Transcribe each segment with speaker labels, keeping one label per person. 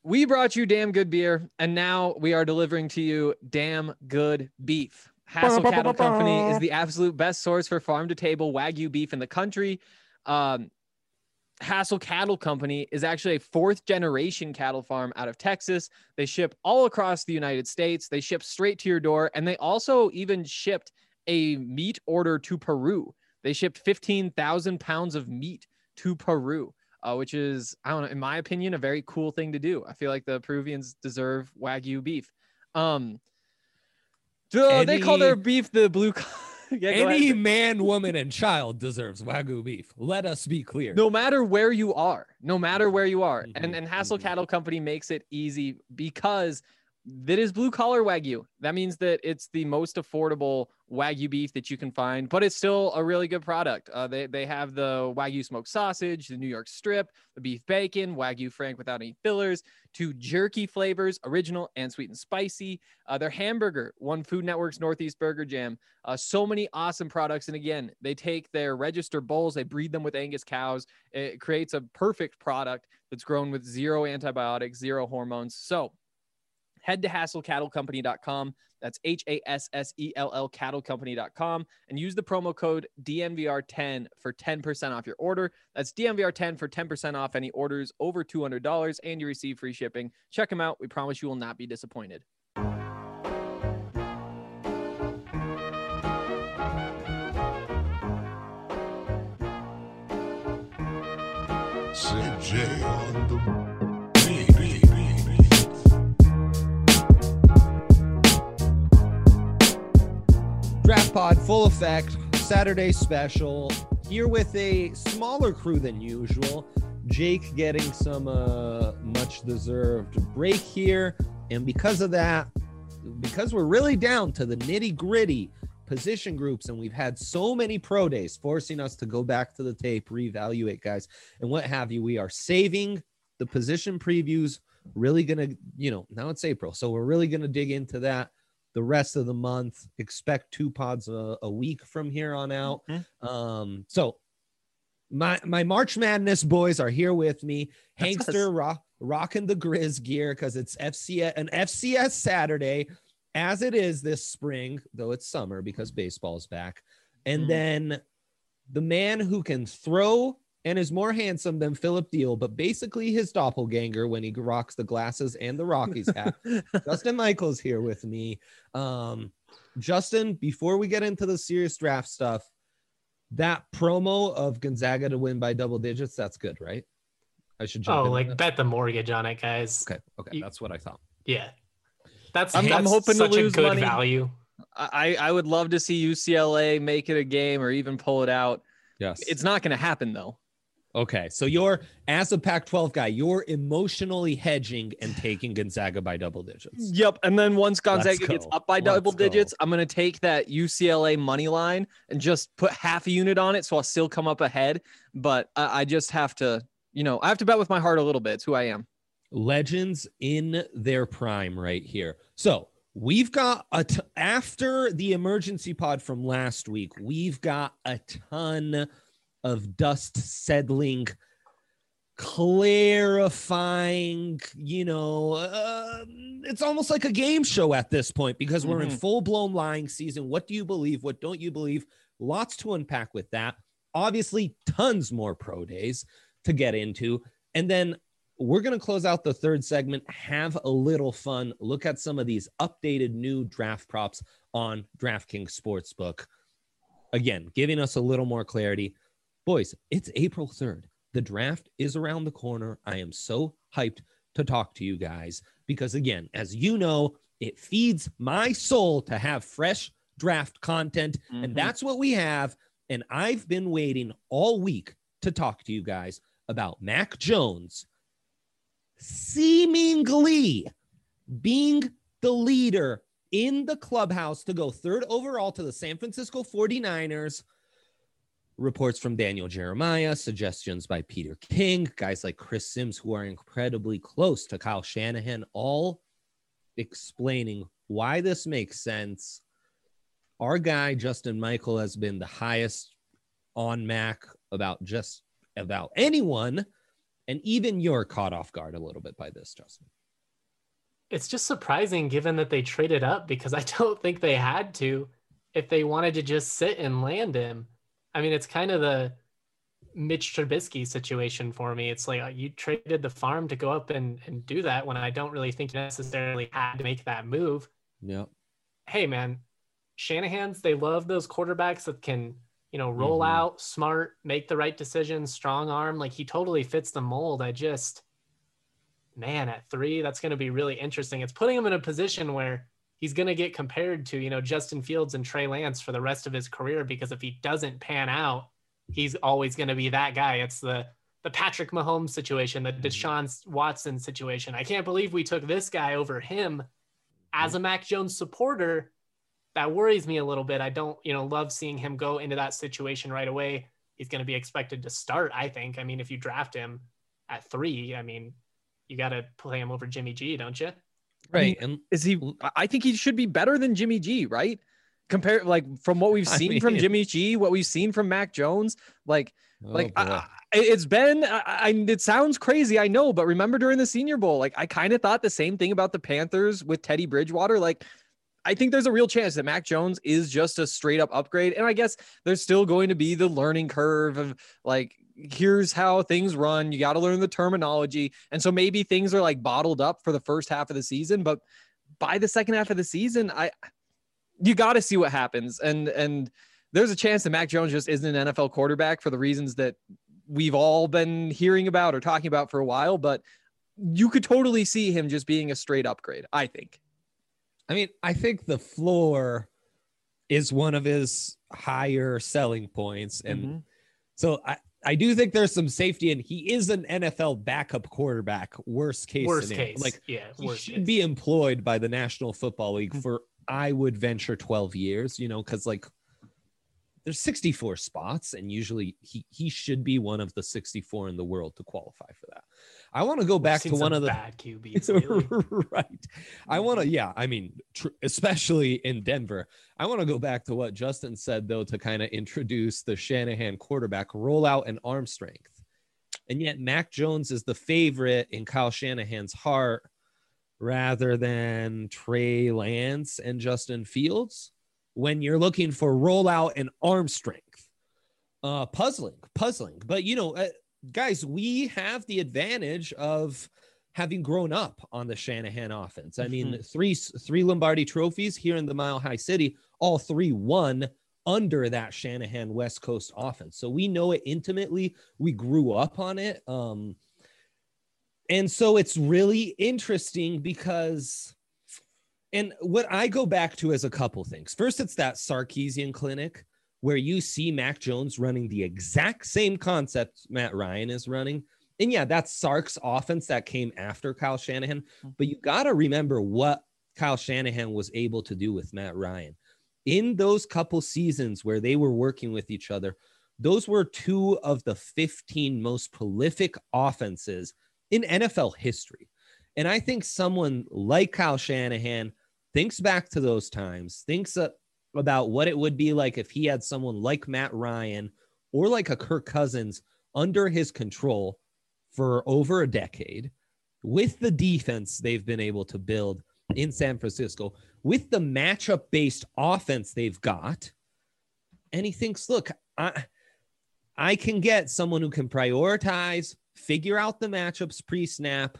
Speaker 1: We brought you damn good beer, and now we are delivering to you damn good beef. Hassel Cattle Company is the absolute best source for farm-to-table Wagyu beef in the country. Hassel Cattle Company is actually a fourth-generation cattle farm out of Texas. They ship all across the United States. They ship straight to your door, and they also even shipped a meat order to Peru. They shipped 15,000 pounds of meat to Peru. Which is, I don't know, in my opinion, a very cool thing to do. I feel like the Peruvians deserve Wagyu beef. They call their beef the blue. Yeah,
Speaker 2: any man, woman, and child deserves Wagyu beef. Let us be clear.
Speaker 1: No matter where you are. And Hassel Cattle Company makes it easy because that is blue collar Wagyu. That means that it's the most affordable Wagyu beef that you can find, but it's still a really good product. They have the Wagyu smoked sausage, the New York strip, the beef bacon, Wagyu Frank without any fillers, 2 jerky flavors, original and sweet and spicy. Their hamburger won Food Network's Northeast Burger Jam. So many awesome products. And again, they take their register bulls, they breed them with Angus cows. It creates a perfect product that's grown with 0 antibiotics, 0 hormones. So head to HassellCattleCompany.com. That's HASSELL cattlecompany.com and use the promo code DNVR10 for 10% off your order. That's DNVR10 for 10% off any orders over $200 and you receive free shipping. Check them out. We promise you will not be disappointed.
Speaker 3: CJ on the
Speaker 2: Draft Pod, full effect, Saturday special, here with a smaller crew than usual. Jake getting some much-deserved break here, and because of that, because we're really down to the nitty-gritty position groups, and we've had so many pro days forcing us to go back to the tape, reevaluate guys, and what have you, we are saving the position previews, really going to, now it's April, so we're really going to dig into that the rest of the month. Expect 2 pods a week from here on out. So my March Madness boys are here with me. Hankster rocking the Grizz gear because it's an FCS Saturday, as it is this spring, though it's summer because baseball's back. And then the man who can throw and is more handsome than Philip Deal, but basically his doppelganger when he rocks the glasses and the Rockies hat. Justin Michael's here with me. Justin, before we get into the serious draft stuff, that promo of Gonzaga to win by double digits, that's good, right? I should jump in.
Speaker 4: Bet the mortgage on it, guys.
Speaker 2: Okay. That's what I thought.
Speaker 4: Yeah. That's
Speaker 1: I'm hoping
Speaker 4: such
Speaker 1: to lose
Speaker 4: a good
Speaker 1: money.
Speaker 4: Value.
Speaker 1: I would love to see UCLA make it a game or even pull it out.
Speaker 2: Yes.
Speaker 1: It's not going to happen though.
Speaker 2: Okay, so you're, as a Pac-12 guy, you're emotionally hedging and taking Gonzaga by double digits.
Speaker 1: Yep, and then once Gonzaga gets up by double digits, I'm going to take that UCLA money line and just put half a unit on it so I'll still come up ahead. But I just have to, I have to bet with my heart a little bit. It's who I am.
Speaker 2: Legends in their prime right here. So we've got, after the emergency pod from last week, we've got a ton of dust settling, clarifying, it's almost like a game show at this point because we're in full-blown lying season. What do you believe? What don't you believe? Lots to unpack with that. Obviously, tons more pro days to get into. And then we're going to close out the third segment, have a little fun, look at some of these updated new draft props on DraftKings Sportsbook. Again, giving us a little more clarity. Boys, it's April 3rd. The draft is around the corner. I am so hyped to talk to you guys because, again, as you know, it feeds my soul to have fresh draft content, and that's what we have. And I've been waiting all week to talk to you guys about Mac Jones seemingly being the leader in the clubhouse to go 3rd overall to the San Francisco 49ers. Reports from Daniel Jeremiah, suggestions by Peter King, guys like Chris Sims, who are incredibly close to Kyle Shanahan, all explaining why this makes sense. Our guy, Justin Michael, has been the highest on Mac about anyone. And even you're caught off guard a little bit by this, Justin.
Speaker 4: It's just surprising given that they traded up, because I don't think they had to if they wanted to just sit and land him. I mean, it's kind of the Mitch Trubisky situation for me. It's like you traded the farm to go up and do that when I don't really think you necessarily had to make that move.
Speaker 2: Yeah.
Speaker 4: Hey, man, Shanahan's, they love those quarterbacks that can, roll out, smart, make the right decisions, strong arm. Like, he totally fits the mold. Man, at 3, that's going to be really interesting. It's putting him in a position where he's going to get compared to, Justin Fields and Trey Lance for the rest of his career, because if he doesn't pan out, he's always going to be that guy. It's the Patrick Mahomes situation, the Deshaun Watson situation. I can't believe we took this guy over him. As a Mac Jones supporter, that worries me a little bit. I don't, love seeing him go into that situation right away. He's going to be expected to start, I think. I mean, if you draft him at 3, I mean, you got to play him over Jimmy G, don't you?
Speaker 2: Right.
Speaker 1: And I think he should be better than Jimmy G, right? Compare, like, from what we've seen from Jimmy G, what we've seen from Mac Jones, it's been, it sounds crazy, I know, but remember during the Senior Bowl, like, I kind of thought the same thing about the Panthers with Teddy Bridgewater. Like, I think there's a real chance that Mac Jones is just a straight up upgrade. And I guess there's still going to be the learning curve of, like, here's how things run. You got to learn the terminology. And so maybe things are like bottled up for the first half of the season, but by the second half of the season, you got to see what happens. And there's a chance that Mac Jones just isn't an NFL quarterback for the reasons that we've all been hearing about or talking about for a while, but you could totally see him just being a straight upgrade, I think.
Speaker 2: I mean, I think the floor is one of his higher selling points. And so I do think there's some safety, and he is an NFL backup quarterback. Worst case. Like, he should be employed by the National Football League for, I would venture, 12 years, because, like, there's 64 spots, and usually he should be one of the 64 in the world to qualify for that. I want to go back to one of the
Speaker 4: bad QBs.
Speaker 2: Right. I want to, especially in Denver. I want to go back to what Justin said, though, to kind of introduce the Shanahan quarterback rollout and arm strength. And yet Mac Jones is the favorite in Kyle Shanahan's heart rather than Trey Lance and Justin Fields when you're looking for rollout and arm strength. Puzzling. But, guys, we have the advantage of having grown up on the Shanahan offense. I mean, three Lombardi trophies here in the Mile High City, all 3 won under that Shanahan West Coast offense. So we know it intimately. We grew up on it. And so it's really interesting because, and what I go back to is a couple things. First, it's that Sarkisian clinic where you see Mac Jones running the exact same concept Matt Ryan is running. And yeah, that's Sark's offense that came after Kyle Shanahan. But you got to remember what Kyle Shanahan was able to do with Matt Ryan. In those couple seasons where they were working with each other, those were 2 of the 15 most prolific offenses in NFL history. And I think someone like Kyle Shanahan thinks back to those times, thinks about what it would be like if he had someone like Matt Ryan or like a Kirk Cousins under his control for over a decade, with the defense they've been able to build in San Francisco, with the matchup-based offense they've got. And he thinks, look, I can get someone who can prioritize, figure out the matchups pre-snap.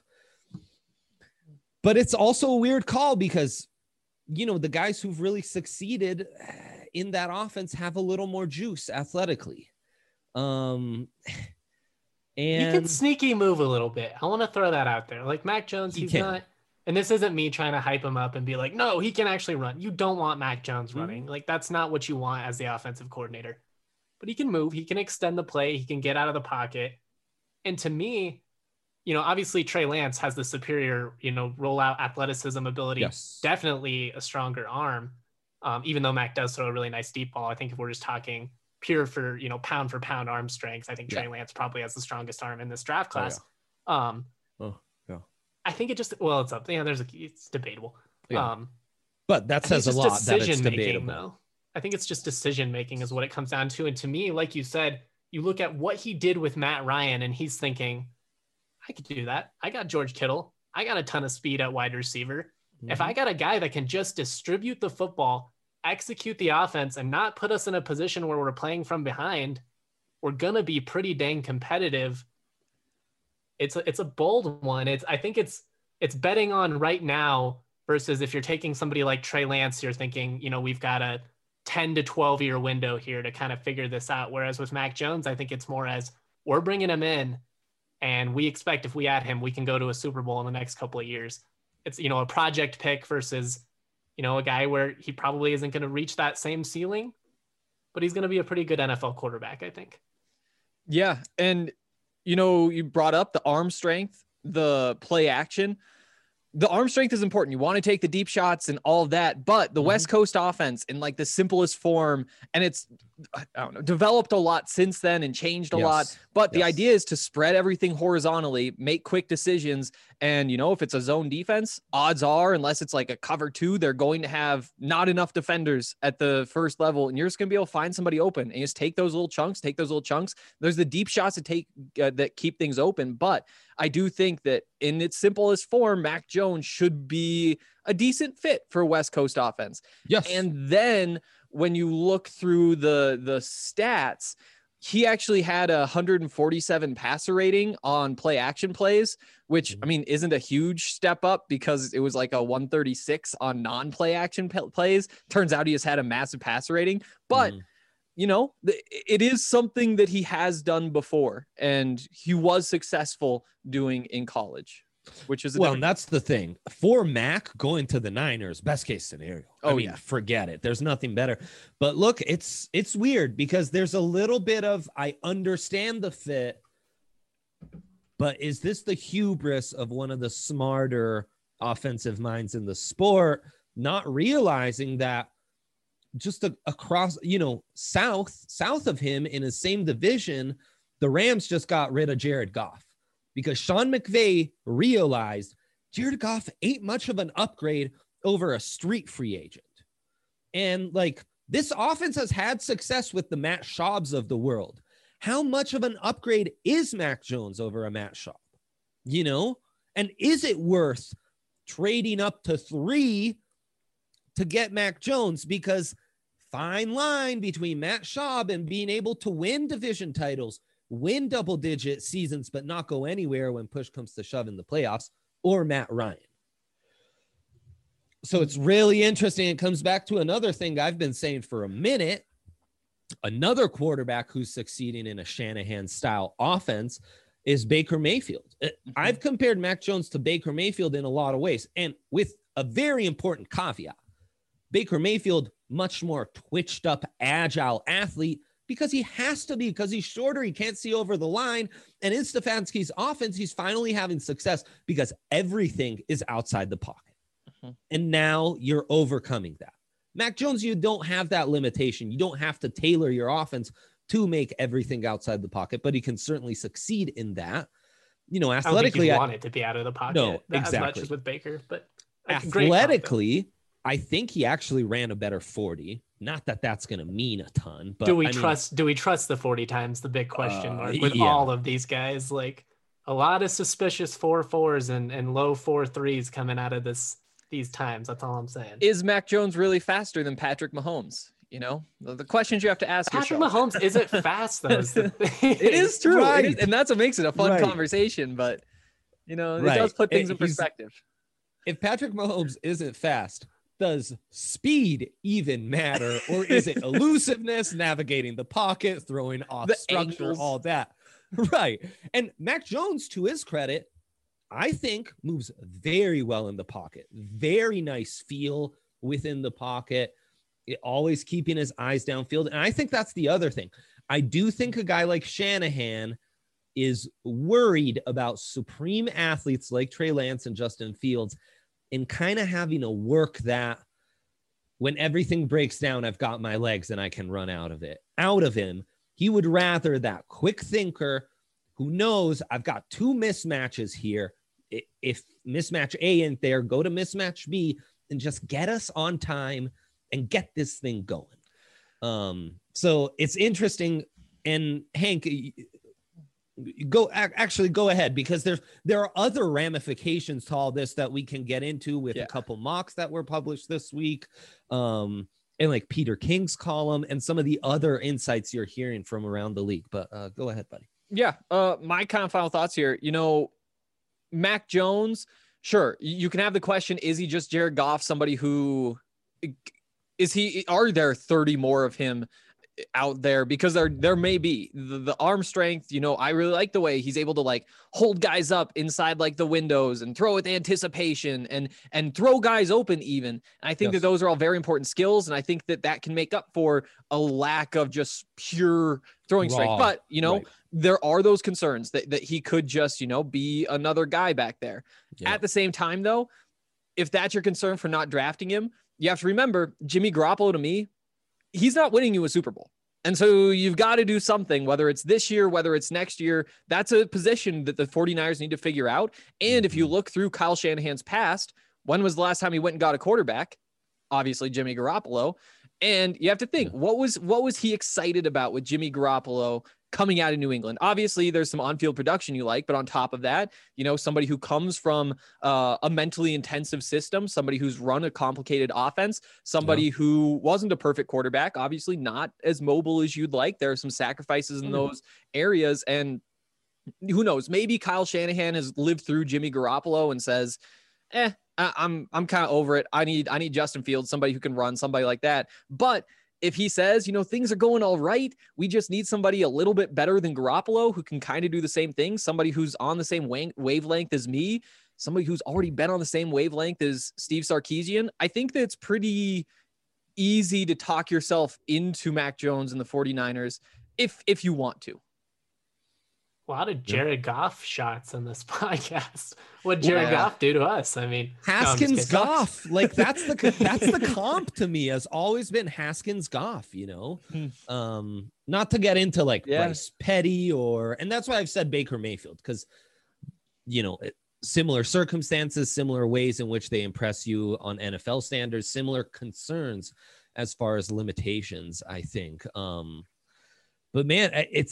Speaker 2: But it's also a weird call because, the guys who've really succeeded in that offense have a little more juice athletically. And
Speaker 4: he can sneaky move a little bit. I want to throw that out there. Like Mac Jones, he's not, and this isn't me trying to hype him up and be like, no, he can actually run. You don't want Mac Jones running. Like, that's not what you want as the offensive coordinator. But he can move. He can extend the play. He can get out of the pocket. And to me, obviously Trey Lance has the superior, rollout athleticism ability.
Speaker 2: Yes.
Speaker 4: Definitely a stronger arm. Even though Mac does throw a really nice deep ball. I think if we're just talking pure for, pound for pound arm strength, I think Trey Lance probably has the strongest arm in this draft class.
Speaker 2: Yeah.
Speaker 4: I think it just, well, it's up. It's debatable.
Speaker 2: Yeah. But that says a lot that it's debatable.
Speaker 4: Though. I think it's just decision making is what it comes down to. And to me, like you said, you look at what he did with Matt Ryan and he's thinking, I could do that. I got George Kittle. I got a ton of speed at wide receiver. If I got a guy that can just distribute the football, execute the offense, and not put us in a position where we're playing from behind, we're going to be pretty dang competitive. It's a bold one. I think it's betting on right now versus if you're taking somebody like Trey Lance, you're thinking, we've got a 10 to 12 year window here to kind of figure this out. Whereas with Mac Jones, I think it's more as we're bringing him in and we expect if we add him, we can go to a Super Bowl in the next couple of years. It's, a project pick versus, a guy where he probably isn't going to reach that same ceiling, but he's going to be a pretty good NFL quarterback, I think.
Speaker 1: Yeah. And, you brought up the arm strength, the play action. The arm strength is important. You want to take the deep shots and all of that, but the West Coast offense in like the simplest form, and it's, I don't know, developed a lot since then and changed a lot. But the idea is to spread everything horizontally, make quick decisions. And, if it's a zone defense, odds are, unless it's like a cover 2, they're going to have not enough defenders at the first level. And you're just going to be able to find somebody open and just take those little chunks. There's the deep shots to take that keep things open. But I do think that in its simplest form, Mac Jones should be a decent fit for West Coast offense.
Speaker 2: Yes.
Speaker 1: And then when you look through the stats, he actually had a 147 passer rating on play action plays, which I mean, isn't a huge step up because it was like a 136 on non-play action plays. Turns out he just had a massive passer rating, but it is something that he has done before and he was successful doing in college, which is
Speaker 2: and that's the thing for Mac going to the Niners, best case scenario. Forget it. There's nothing better. But look, it's weird because there's a little bit of, I understand the fit, but is this the hubris of one of the smarter offensive minds in the sport, not realizing that just across, south of him in his same division, the Rams just got rid of Jared Goff because Sean McVay realized Jared Goff ain't much of an upgrade over a street free agent. And like this offense has had success with the Matt Schaubs of the world. How much of an upgrade is Mac Jones over a Matt Schaub? And is it worth trading up to 3 to get Mac Jones? Because fine line between Matt Schaub and being able to win division titles, win double-digit seasons, but not go anywhere when push comes to shove in the playoffs, or Matt Ryan. So it's really interesting. It comes back to another thing I've been saying for a minute. Another quarterback who's succeeding in a Shanahan-style offense is Baker Mayfield. I've compared Mac Jones to Baker Mayfield in a lot of ways, and with a very important caveat. Baker Mayfield, much more twitched up, agile athlete because he has to be, because he's shorter. He can't see over the line. And in Stefanski's offense, he's finally having success because everything is outside the pocket. And now you're overcoming that. Mac Jones, you don't have that limitation. You don't have to tailor your offense to make everything outside the pocket, but he can certainly succeed in that. Athletically,
Speaker 4: I want it to be out of the pocket.
Speaker 2: No, exactly.
Speaker 4: As much as with Baker, but
Speaker 2: athletically, I think he actually ran a better 40. Not that that's going to mean a ton, but
Speaker 4: do we trust the 40 times? The big question mark with all of these guys, like a lot of suspicious 4.4s and low 4.3s coming out of these times. That's all I'm saying.
Speaker 1: Is Mac Jones really faster than Patrick Mahomes? The questions you have to ask
Speaker 4: Patrick
Speaker 1: yourself.
Speaker 4: Mahomes isn't fast though.
Speaker 1: It is true.
Speaker 2: Right.
Speaker 1: And that's what makes it a fun conversation, but it does put things in perspective.
Speaker 2: If Patrick Mahomes isn't fast, does speed even matter? Or is it elusiveness, navigating the pocket, throwing off structure,
Speaker 1: angles,
Speaker 2: all that? Right. And Mac Jones, to his credit, I think moves very well in the pocket. Very nice feel within the pocket, always keeping his eyes downfield. And I think that's the other thing. I do think a guy like Shanahan is worried about supreme athletes like Trey Lance and Justin Fields and kind of having to work that when everything breaks down, I've got my legs and I can run out of him. He would rather that quick thinker who knows I've got 2 mismatches here. If mismatch A ain't there, go to mismatch B and just get us on time and get this thing going. So it's interesting. And Hank, actually go ahead, because there are other ramifications to all this that we can get into with a couple mocks that were published this week, and like Peter King's column and some of the other insights you're hearing from around the league. But go ahead, buddy.
Speaker 1: Yeah. My kind of final thoughts here. Mac Jones, sure, you can have the question, is he just Jared Goff, somebody who are there 30 more of him out there? Because there may be the arm strength. I really like the way he's able to like hold guys up inside like the windows and throw with anticipation and throw guys open even. And I think that those are all very important skills. And I think that can make up for a lack of just pure throwing strength. But, there are those concerns that he could just, be another guy back there. Yeah. At the same time, though, if that's your concern for not drafting him, you have to remember Jimmy Garoppolo, to me, he's not winning you a Super Bowl. And so you've got to do something, whether it's this year, whether it's next year. That's a position that the 49ers need to figure out. And if you look through Kyle Shanahan's past, when was the last time he went and got a quarterback? Obviously, Jimmy Garoppolo. And you have to think, what was he excited about with Jimmy Garoppolo coming out of New England? Obviously, there's some on-field production you like, but on top of that, somebody who comes from a mentally intensive system, somebody who's run a complicated offense, somebody who wasn't a perfect quarterback, obviously not as mobile as you'd like. There are some sacrifices in those areas, and who knows? Maybe Kyle Shanahan has lived through Jimmy Garoppolo and says, I'm kind of over it. I need Justin Fields, somebody who can run, somebody like that. But if he says, things are going all right, we just need somebody a little bit better than Garoppolo who can kind of do the same thing, somebody who's on the same wavelength as me, somebody who's already been on the same wavelength as Steve Sarkisian, I think that it's pretty easy to talk yourself into Mac Jones and the 49ers if you want to.
Speaker 4: A lot of Jared Goff shots in this podcast. What Jared Goff do to us? I mean,
Speaker 2: Haskins Goff, like that's the comp to me, has always been Haskins Goff. Not to get into like Bryce Petty and that's why I've said Baker Mayfield, because similar circumstances, similar ways in which they impress you on NFL standards, similar concerns as far as limitations, I think. But man,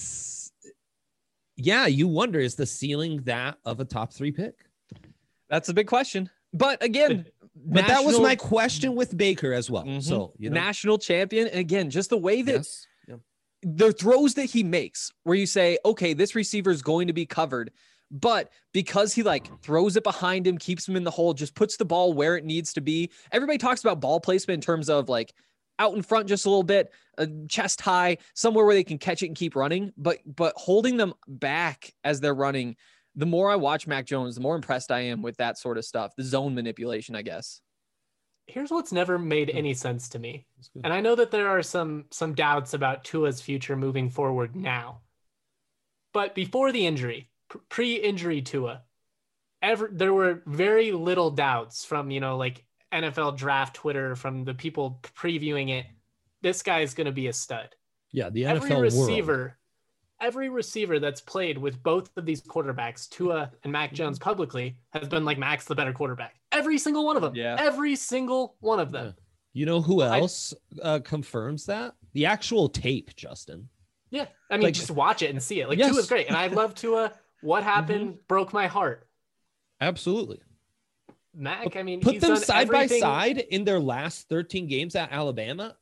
Speaker 2: you wonder, is the ceiling that of a top 3 pick?
Speaker 1: That's a big question. But again,
Speaker 2: that was my question with Baker as well. So,
Speaker 1: national champion. And again, just the way that the throws that he makes, where you say, okay, this receiver is going to be covered, but because he like throws it behind him, keeps him in the hole, just puts the ball where it needs to be. Everybody talks about ball placement in terms of like out in front just a little bit, chest high, somewhere where they can catch it and keep running, but holding them back as they're running. The more I watch Mac Jones, the more impressed I am with that sort of stuff, the zone manipulation, I guess.
Speaker 4: Here's what's never made any sense to me. And I know that there are some doubts about Tua's future moving forward now. But before the injury, pre-injury Tua, there were very little doubts from, like NFL draft Twitter, from the people previewing it. This guy is going to be a stud.
Speaker 2: Yeah, the NFL world.
Speaker 4: Every receiver that's played with both of these quarterbacks, Tua and Mac Jones, publicly has been like, Mac's the better quarterback. Every single one of them. Yeah. Every single one of them.
Speaker 2: You know who else confirms that? The actual tape, Justin.
Speaker 4: Yeah. I mean, just watch it and see it. Like, Tua's great. And I love Tua. What happened broke my heart.
Speaker 2: Absolutely.
Speaker 4: Mac, I mean,
Speaker 2: put them side by side in their last 13 games at Alabama.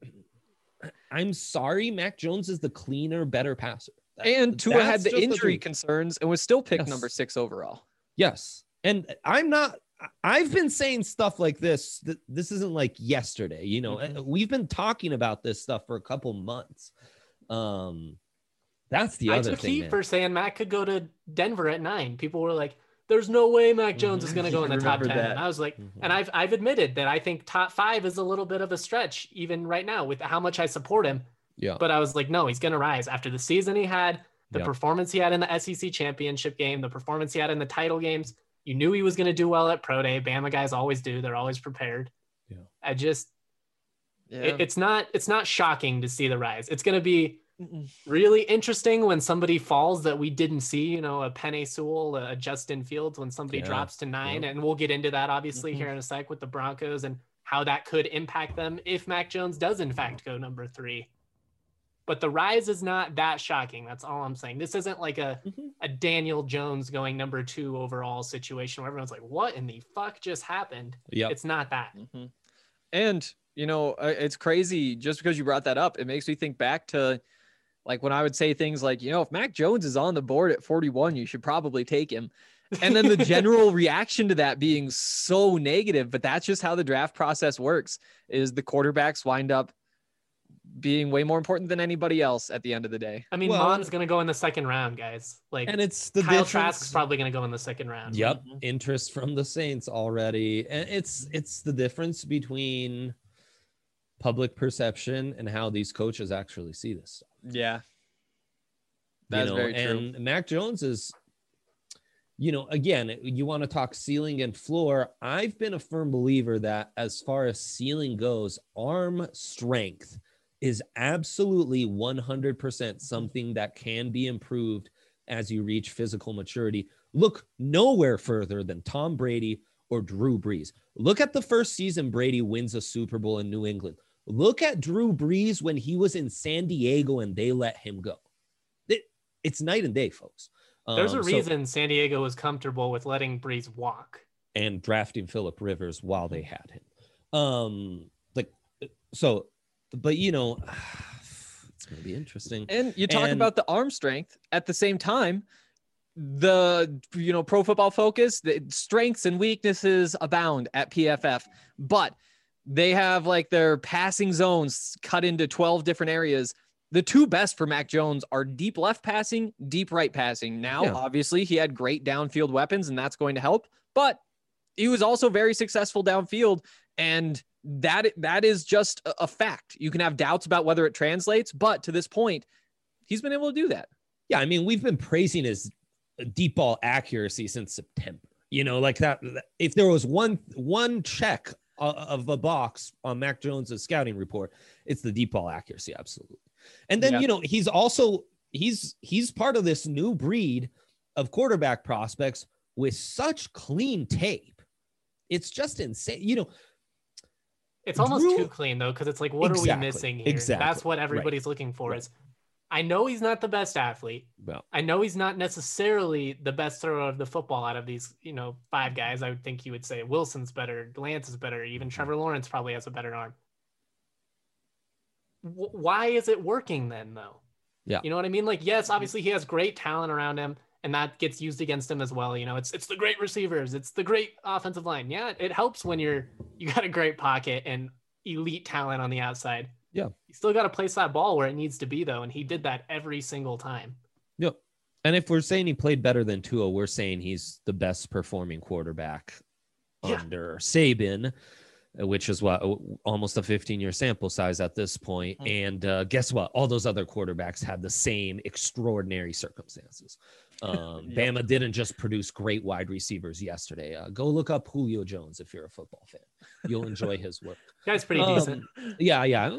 Speaker 2: I'm sorry, Mac Jones is the cleaner, better passer.
Speaker 1: And Tua had the injury concerns and was still picked number 6 overall.
Speaker 2: Yes. And I've been saying stuff like this. This isn't like yesterday, we've been talking about this stuff for a couple months. That's the other thing. I took heat
Speaker 4: for saying Mac could go to Denver at 9. People were like, there's no way Mac Jones is going to go in the top 10. And I was like, and I've admitted that I think top 5 is a little bit of a stretch even right now with how much I support him.
Speaker 2: Yeah.
Speaker 4: But I was like, no, he's going to rise after the season he had, the performance he had in the SEC championship game, the performance he had in the title games. You knew he was going to do well at Pro Day. Bama guys always do. They're always prepared. Yeah. It's not shocking to see the rise. It's going to be really interesting when somebody falls that we didn't see, a Penei Sewell, a Justin Fields, when somebody drops to 9. And we'll get into that obviously here in a sec with the Broncos and how that could impact them if Mac Jones does in fact go number 3. but the rise is not that shocking. That's all I'm saying. This isn't like a Daniel Jones going number 2 overall situation where everyone's like, what in the fuck just happened?
Speaker 2: Yeah.
Speaker 4: It's not that.
Speaker 1: And, it's crazy just because you brought that up. It makes me think back to like when I would say things like, if Mac Jones is on the board at 41, you should probably take him. And then the general reaction to that being so negative, but that's just how the draft process works, is the quarterbacks wind up being way more important than anybody else at the end of the day.
Speaker 4: I mean, Mon's going to go in the second round, guys. Like,
Speaker 2: and it's the
Speaker 4: Kyle
Speaker 2: difference.
Speaker 4: Trask's probably going to go in the second round.
Speaker 2: Yep. Interest from the Saints already. And it's the difference between public perception and how these coaches actually see this stuff.
Speaker 1: Yeah. That's very true.
Speaker 2: And Mac Jones is, again, you want to talk ceiling and floor. I've been a firm believer that as far as ceiling goes, arm strength is absolutely 100% something that can be improved as you reach physical maturity. Look nowhere further than Tom Brady or Drew Brees. Look at the first season Brady wins a Super Bowl in New England. Look at Drew Brees when he was in San Diego and they let him go. It's night and day, folks.
Speaker 4: There's a reason San Diego was comfortable with letting Brees walk
Speaker 2: and drafting Phillip Rivers while they had him. But it's going to be interesting.
Speaker 1: And you talk about the arm strength at the same time. The Pro Football Focus, the strengths and weaknesses abound at PFF, but they have like their passing zones cut into 12 different areas. The 2 best for Mac Jones are deep left passing, deep right passing. Now, obviously, he had great downfield weapons, and that's going to help. But he was also very successful downfield, and that is just a fact. You can have doubts about whether it translates, but to this point, he's been able to do that.
Speaker 2: Yeah, I mean, we've been praising his deep ball accuracy since September. Like that. If there was one check of a box on Mac Jones's scouting report, it's the deep ball accuracy, absolutely. And then he's also he's part of this new breed of quarterback prospects with such clean tape. It's just insane.
Speaker 4: It's almost too clean though, because it's like, what are we missing here?
Speaker 2: Exactly.
Speaker 4: That's what everybody's looking for. Is I know he's not the best athlete.
Speaker 2: Well,
Speaker 4: I know he's not necessarily the best thrower of the football out of these, 5 guys. I would think you would say Wilson's better, Lance is better, even Trevor Lawrence probably has a better arm. Why is it working then, though?
Speaker 2: Yeah.
Speaker 4: You know what I mean? Like, yes, obviously he has great talent around him, and that gets used against him as well. It's the great receivers, it's the great offensive line. Yeah, it helps when you got a great pocket and elite talent on the outside.
Speaker 2: Yeah.
Speaker 4: You still got to place that ball where it needs to be, though, and he did that every single time.
Speaker 2: Yep. And if we're saying he played better than Tua, we're saying he's the best performing quarterback under Saban, which is what, almost a 15-year sample size at this point. And guess what? All those other quarterbacks had the same extraordinary circumstances. Bama didn't just produce great wide receivers yesterday. Go look up Julio Jones if you're a football fan. You'll enjoy his work.
Speaker 4: Guy's pretty decent.
Speaker 2: Yeah.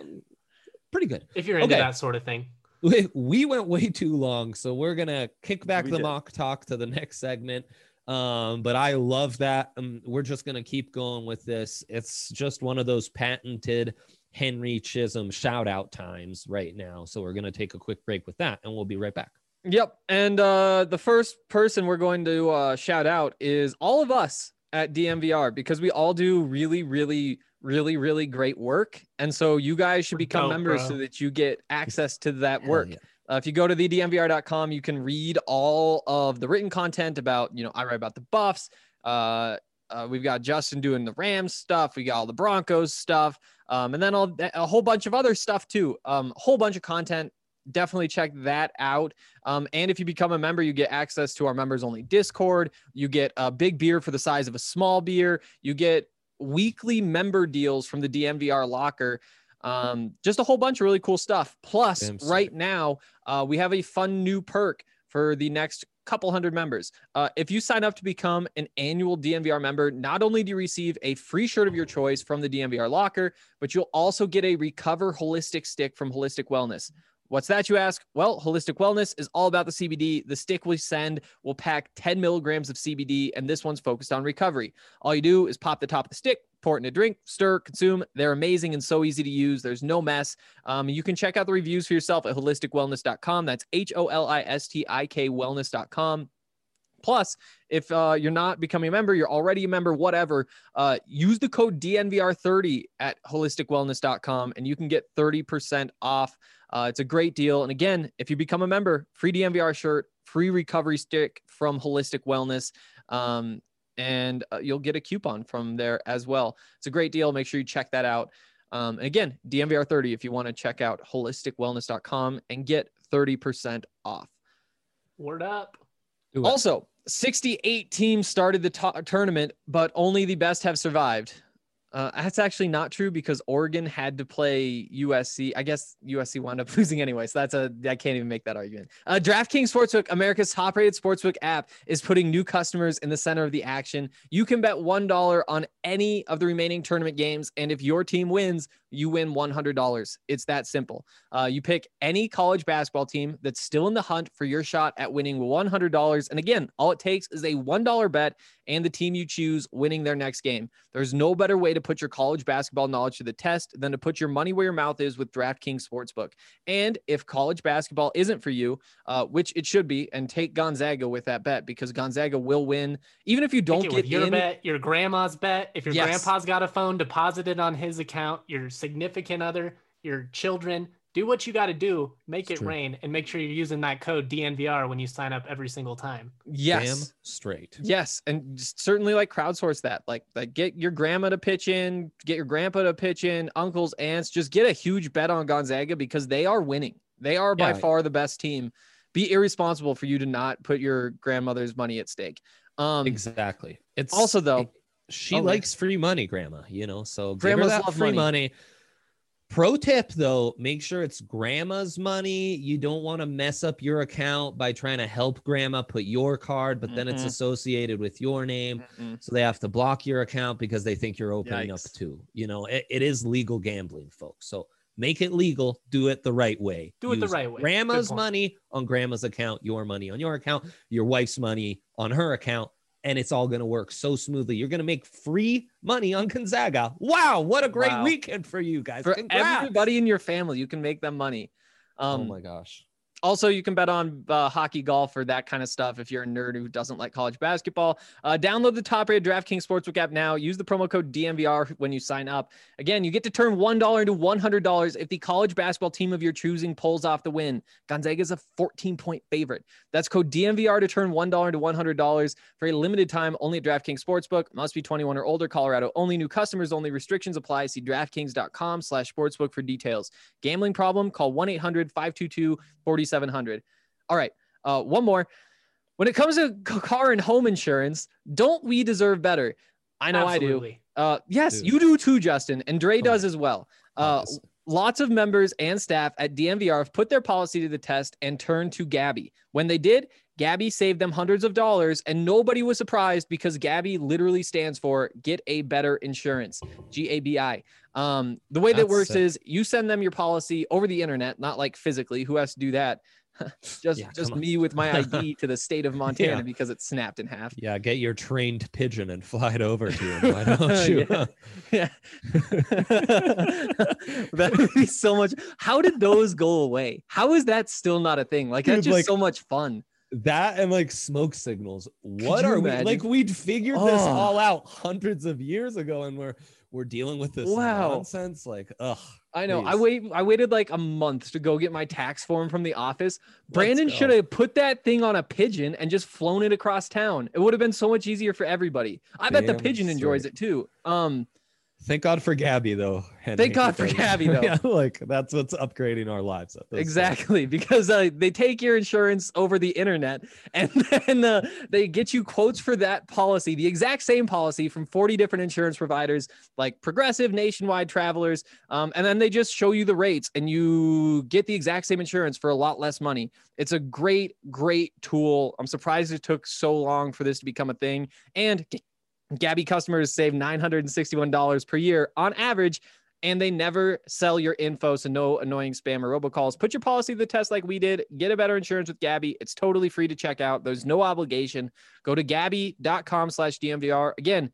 Speaker 2: Pretty good.
Speaker 4: If you're into that sort of thing.
Speaker 2: We went way too long, so we're going to kick back mock talk to the next segment. But I love that. We're just going to keep going with this. It's just one of those patented Henry Chisholm shout out times right now. So we're going to take a quick break with that, and we'll be right back.
Speaker 1: Yep. And the first person we're going to shout out is all of us at DMVR, because we all do really, really, really, really great work. And so you guys should become members so that you get access to that work. Yeah. If you go to thedmvr.com, you can read all of the written content about, I write about the Buffs. We've got Justin doing the Rams stuff. We got all the Broncos stuff. And then a whole bunch of other stuff too. A whole bunch of content. Definitely check that out. And if you become a member, you get access to our members only Discord. You get a big beer for the size of a small beer. You get weekly member deals from the DMVR locker. Just a whole bunch of really cool stuff. Plus, right now, we have a fun new perk for the next couple hundred members. If you sign up to become an annual DMVR member, not only do you receive a free shirt of your choice from the DMVR locker, but you'll also get a Recover Holistic stick from Holistic Wellness. What's that, you ask? Well, Holistic Wellness is all about the CBD. The stick we send will pack 10 milligrams of CBD, and this one's focused on recovery. All you do is pop the top of the stick, pour it in a drink, stir, consume. They're amazing and so easy to use. There's no mess. You can check out the reviews for yourself at holisticwellness.com. That's HOLISTIK wellness.com. Plus, if you're not becoming a member, you're already a member, whatever, use the code DNVR30 at holisticwellness.com and you can get 30% off. It's a great deal. And again, if you become a member, free DNVR shirt, free recovery stick from Holistic Wellness, and you'll get a coupon from there as well. It's a great deal. Make sure you check that out. And again, DNVR30 if you want to check out holisticwellness.com and get 30% off.
Speaker 4: Word up.
Speaker 1: Also, 68 teams started the tournament, but only the best have survived. That's actually not true because Oregon had to play USC. I guess USC wound up losing anyway. So I can't even make that argument. DraftKings Sportsbook, America's top rated sportsbook app, is putting new customers in the center of the action. You can bet $1 on any of the remaining tournament games. And if your team wins, you win $100. It's that simple. You pick any college basketball team that's still in the hunt for your shot at winning $100. And again, all it takes is a $1 bet and the team you choose winning their next game. There's no better way to put your college basketball knowledge to the test than to put your money where your mouth is with DraftKings Sportsbook. And if college basketball isn't for you, which it should be, and take Gonzaga with that bet because Gonzaga will win. Even if you don't get
Speaker 4: your
Speaker 1: in,
Speaker 4: bet, your grandma's bet, if your grandpa's got a phone, deposit it on his account, your significant other, your children, do what you got to do, make it rain, and make sure you're using that code DNVR when you sign up every single time.
Speaker 1: Yes.
Speaker 2: Damn straight.
Speaker 1: Yes. And certainly like crowdsource that, like get your grandma to pitch in, get your grandpa to pitch in, uncles, aunts, just get a huge bet on Gonzaga because they are winning. They are by far the best team. Be irresponsible for you to not put your grandmother's money at stake.
Speaker 2: Exactly. It's
Speaker 1: also though,
Speaker 2: she likes free money, grandma, so
Speaker 1: grandmas
Speaker 2: give her that
Speaker 1: love
Speaker 2: free
Speaker 1: money.
Speaker 2: Pro tip though, make sure it's grandma's money. You don't want to mess up your account by trying to help grandma put your card, but then it's associated with your name. So they have to block your account because they think you're opening up too. It is legal gambling, folks. So make it legal. Do it the right way.
Speaker 4: Do it the right way.
Speaker 2: Grandma's money on grandma's account, your money on your account, your wife's money on her account. And it's all going to work so smoothly. You're going to make free money on Gonzaga. Wow, what a great weekend for you guys.
Speaker 1: For
Speaker 2: Congrats.
Speaker 1: everybody in your family, you can make them money.
Speaker 2: Oh my gosh.
Speaker 1: Also, you can bet on hockey, golf, or that kind of stuff if you're a nerd who doesn't like college basketball. Download the top-rated DraftKings Sportsbook app now. Use the promo code DNVR when you sign up. Again, you get to turn $1 into $100 if the college basketball team of your choosing pulls off the win. Gonzaga is a 14-point favorite. That's code DNVR to turn $1 into $100 for a limited time only at DraftKings Sportsbook. Must be 21 or older. Colorado only. New customers only. Restrictions apply. See DraftKings.com/sportsbook for details. Gambling problem? Call 1-800-522-4700. All right. One more. When it comes to car and home insurance, don't we deserve better? I know
Speaker 4: Absolutely.
Speaker 1: I do. Yes,
Speaker 2: Dude.
Speaker 1: you do too, Justin. And Dre does as well. Lots of members and staff at DNVR have put their policy to the test and turned to Gabby. When they did, Gabby saved them hundreds of dollars, and nobody was surprised because Gabby literally stands for Get a Better Insurance, GABI. The way that works is you send them your policy over the internet, not like physically. Who has to do that? just me with my ID to the state of Montana because it's snapped in half.
Speaker 2: Yeah, get your trained pigeon and fly it over to him. Why don't you?
Speaker 1: Yeah. That would be so much. How did those go away? How is that still not a thing? Like, that's just so much fun.
Speaker 2: That and like smoke signals. What
Speaker 1: Could you
Speaker 2: are we
Speaker 1: imagine?
Speaker 2: like? We'd figured this all out hundreds of years ago, and we're dealing with this nonsense. Like,
Speaker 1: I know.
Speaker 2: Please.
Speaker 1: I waited like a month to go get my tax form from the office. Brandon should have put that thing on a pigeon and just flown it across town. It would have been so much easier for everybody. I bet the pigeon enjoys it too.
Speaker 2: Thank God for Gabby, though.
Speaker 1: Thank God for Gabby, though.
Speaker 2: Yeah, like that's what's upgrading our lives.
Speaker 1: Exactly, because they take your insurance over the internet, and then they get you quotes for that policy, the exact same policy from 40 different insurance providers, like Progressive, Nationwide, Travelers, and then they just show you the rates, and you get the exact same insurance for a lot less money. It's a great, great tool. I'm surprised it took so long for this to become a thing, and Gabby customers save $961 per year on average, and they never sell your info. So no annoying spam or robocalls. Put your policy to the test like we did. Get a better insurance with Gabi. It's totally free to check out. There's no obligation. Go to Gabi.com/DNVR. Again,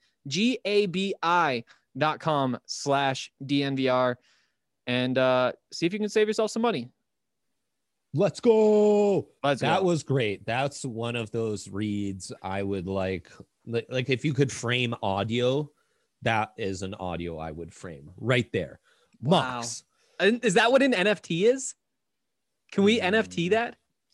Speaker 1: GABI.com/DNVR, and see if you can save yourself some money.
Speaker 2: Let's go.
Speaker 1: That
Speaker 2: was great. That's one of those reads I would like if you could frame audio, that is an audio I would frame right there.
Speaker 1: Wow.
Speaker 2: Mox.
Speaker 1: And is that what an NFT is? Can we NFT that?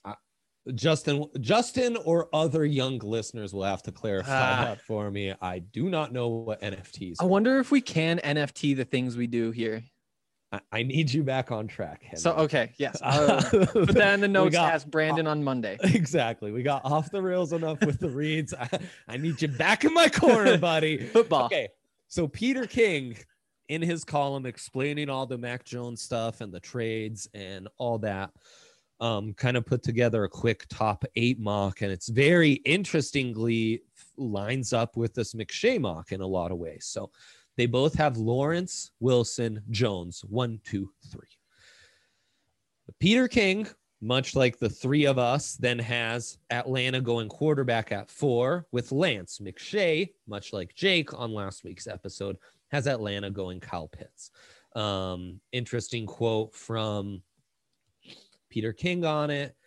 Speaker 2: Justin or other young listeners will have to clarify that for me. I do not know what NFTs
Speaker 1: I wonder if we can NFT the things we do here.
Speaker 2: I need you back on track, Henry.
Speaker 1: So, okay. Yes. Put that in the notes. Ask Brandon on Monday.
Speaker 2: Exactly. We got off the rails enough with the reads. I need you back in my corner, buddy.
Speaker 1: Football.
Speaker 2: Okay. So Peter King, in his column explaining all the Mac Jones stuff and the trades and all that, kind of put together a quick top 8 mock, and it's very interestingly lines up with this McShay mock in a lot of ways. So they both have Lawrence, Wilson, Jones, 1, 2, 3. Peter King, much like the three of us, then has Atlanta going quarterback at 4 with Lance. McShay, much like Jake on last week's episode, has Atlanta going Kyle Pitts. Interesting quote from Peter King on it.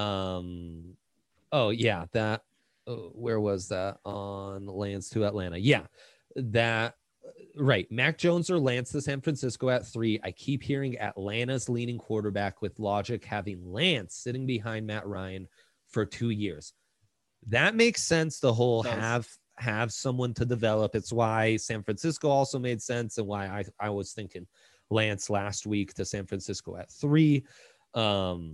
Speaker 2: Where was that on Lance to Atlanta? Yeah, that. Right. Mac Jones or Lance to San Francisco at 3. I keep hearing Atlanta's leading quarterback, with logic having Lance sitting behind Matt Ryan for 2 years. That makes sense. The whole have someone to develop. It's why San Francisco also made sense, and why I was thinking Lance last week to San Francisco at 3.
Speaker 1: Can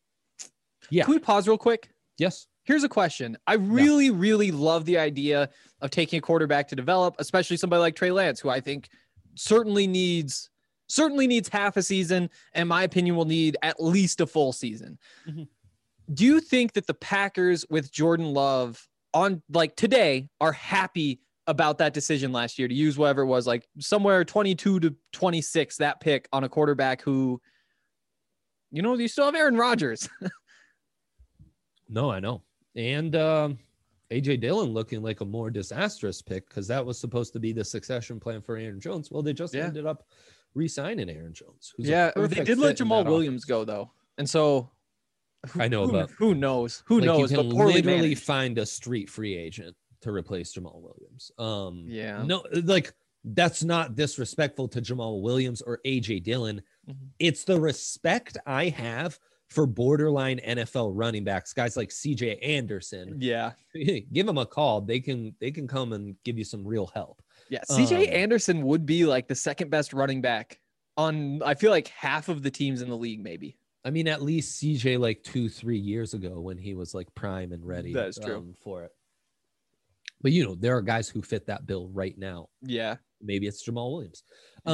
Speaker 1: we pause real quick?
Speaker 2: Yes.
Speaker 1: Here's a question. I really love the idea of taking a quarterback to develop, especially somebody like Trey Lance, who I think certainly needs half a season, and in my opinion will need at least a full season. Mm-hmm. Do you think that the Packers with Jordan Love on like today are happy about that decision last year to use whatever it was, like somewhere 22 to 26, that pick on a quarterback who, you still have Aaron Rodgers?
Speaker 2: No, I know. And A.J. Dillon looking like a more disastrous pick, because that was supposed to be the succession plan for Aaron Jones. Well, they just ended up re-signing Aaron Jones.
Speaker 1: They did let Jamal Williams go, though. And so
Speaker 2: I know, but
Speaker 1: who knows? Who knows?
Speaker 2: You can
Speaker 1: but poorly
Speaker 2: literally
Speaker 1: managed.
Speaker 2: find a street free agent to replace Jamal Williams.
Speaker 1: No,
Speaker 2: that's not disrespectful to Jamal Williams or A.J. Dillon. Mm-hmm. It's the respect I have for borderline NFL running backs, guys like CJ Anderson.
Speaker 1: Yeah.
Speaker 2: Give them a call. They can come and give you some real help.
Speaker 1: Yeah. CJ Anderson would be like the second best running back on, I feel like, half of the teams in the league, maybe.
Speaker 2: I mean, at least CJ like 2-3 years ago when he was like prime and ready.
Speaker 1: That's true.
Speaker 2: For it. But there are guys who fit that bill right now.
Speaker 1: Yeah.
Speaker 2: Maybe it's Jamal Williams.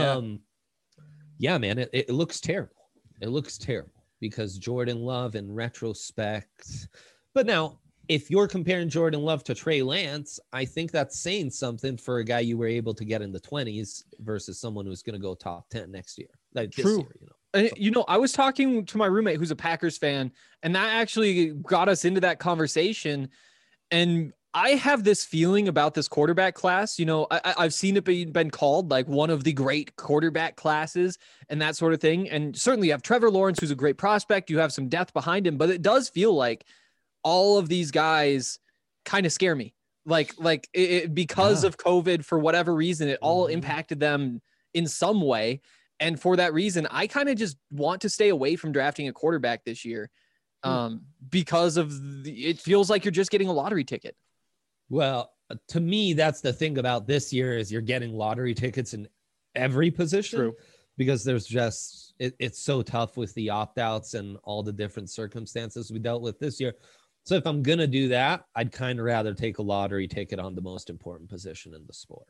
Speaker 1: Yeah.
Speaker 2: Man, it looks terrible. It looks terrible. Because Jordan Love in retrospect. But now, if you're comparing Jordan Love to Trey Lance, I think that's saying something for a guy you were able to get in the 20s versus someone who's going to go top 10 next year. Like
Speaker 1: True. This year, I was talking to my roommate who's a Packers fan, and that actually got us into that conversation. And I have this feeling about this quarterback class. I've seen it been called like one of the great quarterback classes and that sort of thing. And certainly you have Trevor Lawrence, who's a great prospect. You have some depth behind him, but it does feel like all of these guys kind of scare me. Because of COVID, for whatever reason, it all impacted them in some way. And for that reason, I kind of just want to stay away from drafting a quarterback this year because it feels like you're just getting a lottery ticket.
Speaker 2: Well, to me, that's the thing about this year is you're getting lottery tickets in every position.
Speaker 1: True.
Speaker 2: Because there's just, it's so tough with the opt-outs and all the different circumstances we dealt with this year. So if I'm going to do that, I'd kind of rather take a lottery ticket on the most important position in the sport.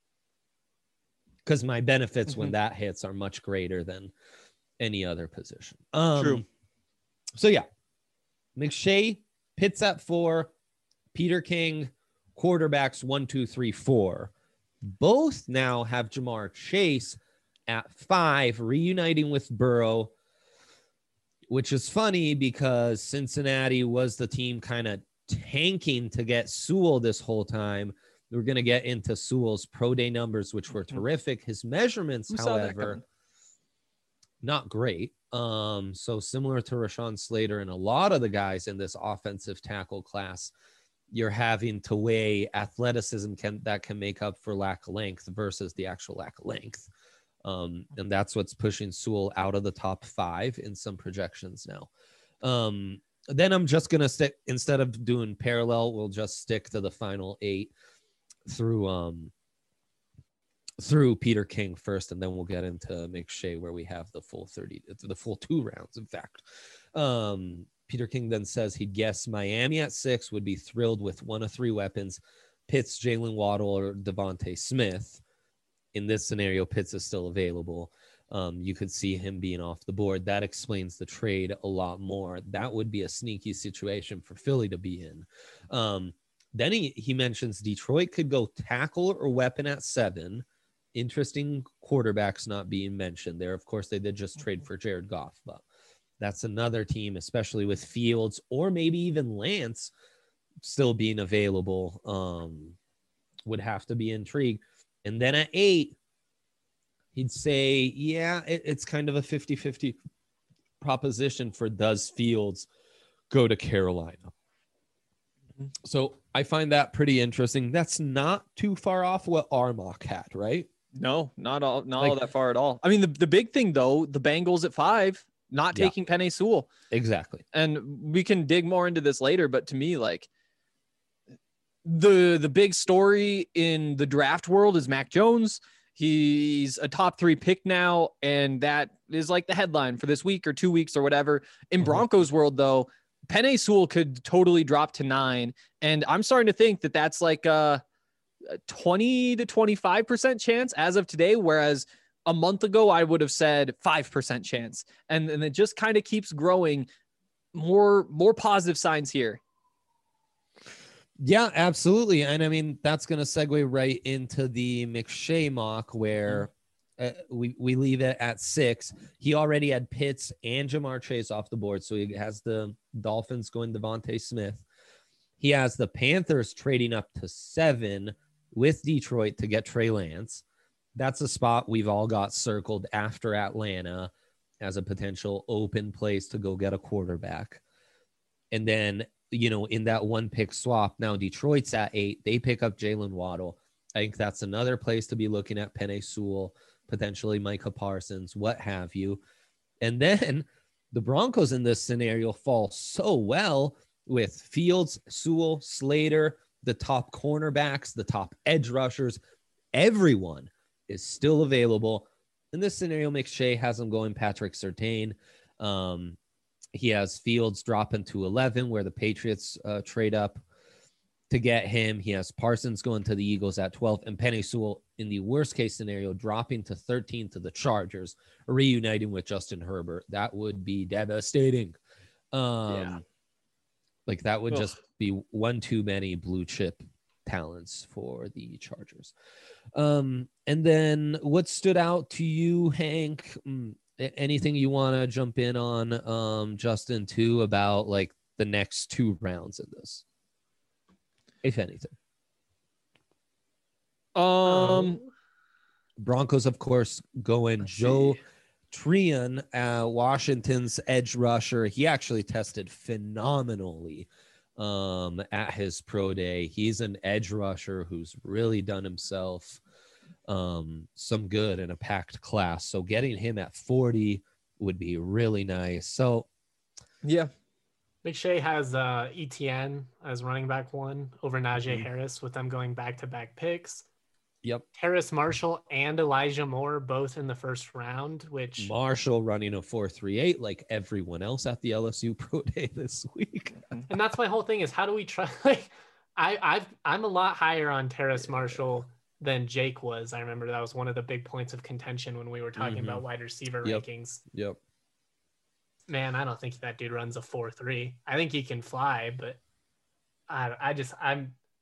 Speaker 2: Because my benefits when that hits are much greater than any other position.
Speaker 1: True.
Speaker 2: So yeah, McShay, Pitts at 4, Peter King, quarterbacks 1, 2, 3, 4. Both now have Jamar Chase at 5, reuniting with Burrow, which is funny because Cincinnati was the team kind of tanking to get Sewell this whole time. We're going to get into Sewell's pro day numbers, which were terrific. His measurements, however, not great. So similar to Rashawn Slater and a lot of the guys in this offensive tackle class, you're having to weigh athleticism that can make up for lack of length versus the actual lack of length. And that's what's pushing Sewell out of the top 5 in some projections now. Then I'm just going to stick, instead of doing parallel, we'll just stick to the final 8 through Peter King first, and then we'll get into McShay where we have the full 2 rounds, in fact. Peter King then says he'd guess Miami at 6, would be thrilled with one of 3 weapons, Pitts, Jalen Waddle, or Devontae Smith. In this scenario, Pitts is still available. You could see him being off the board. That explains the trade a lot more. That would be a sneaky situation for Philly to be in. Then he mentions Detroit could go tackle or weapon at 7. Interesting quarterbacks not being mentioned there. Of course, they did just trade for Jared Goff, but that's another team, especially with Fields or maybe even Lance still being available, would have to be intrigued. And then at 8, he'd say, yeah, it's kind of a 50-50 proposition for does Fields go to Carolina. So I find that pretty interesting. That's not too far off what our mock had, right?
Speaker 1: No, not all that far at all. I mean, the big thing though, the Bengals at 5, not taking Penei Sewell.
Speaker 2: Exactly.
Speaker 1: And we can dig more into this later, but to me, like the big story in the draft world is Mac Jones. He's a top 3 pick now, and that is like the headline for this week or 2 weeks or whatever. In Broncos world though, Penei Sewell could totally drop to 9. And I'm starting to think that that's like a 20 to 25% chance as of today. Whereas a month ago, I would have said 5% chance. And it just kind of keeps growing. More positive signs here.
Speaker 2: Yeah, absolutely. And I mean, that's going to segue right into the McShay mock where we leave it at 6. He already had Pitts and Jamar Chase off the board. So he has the Dolphins going Devontae Smith. He has the Panthers trading up to 7 with Detroit to get Trey Lance. That's a spot we've all got circled after Atlanta as a potential open place to go get a quarterback. And then, you know, in that 1 pick swap, now Detroit's at 8. They pick up Jalen Waddle. I think that's another place to be looking at Penei Sewell, potentially Micah Parsons, what have you. And then the Broncos in this scenario fall so well with Fields, Sewell, Slater, the top cornerbacks, the top edge rushers. Everyone is still available. In this scenario, McShay has him going Patrick Surtain. He has Fields dropping to 11 where the Patriots trade up to get him. He has Parsons going to the Eagles at 12 and Penei Sewell in the worst case scenario dropping to 13 to the Chargers, reuniting with Justin Herbert. That would be devastating. Like that would just be one too many blue chip talents for the Chargers. And then what stood out to you, Hank? Anything you want to jump in on, Justin, too, about like the next 2 rounds in this, if anything? Broncos, of course, going Joe Tryon, Washington's edge rusher. He actually tested phenomenally at his pro day. He's an edge rusher who's really done himself some good in a packed class. So getting him at 40 would be really nice. So
Speaker 1: yeah,
Speaker 4: McShay has ETN as running back 1 over Najee Harris with them going back-to-back picks.
Speaker 2: Yep.
Speaker 4: Terrace Marshall and Elijah Moore both in the first round, which
Speaker 2: Marshall running a 4.38 like everyone else at the LSU pro day this week.
Speaker 4: And that's my whole thing is how do we try? Like I'm a lot higher on Terrace Marshall than Jake was. I remember that was one of the big points of contention when we were talking about wide receiver rankings.
Speaker 2: Yep.
Speaker 4: Man, I don't think that dude runs a 4.3. I think he can fly, but I'm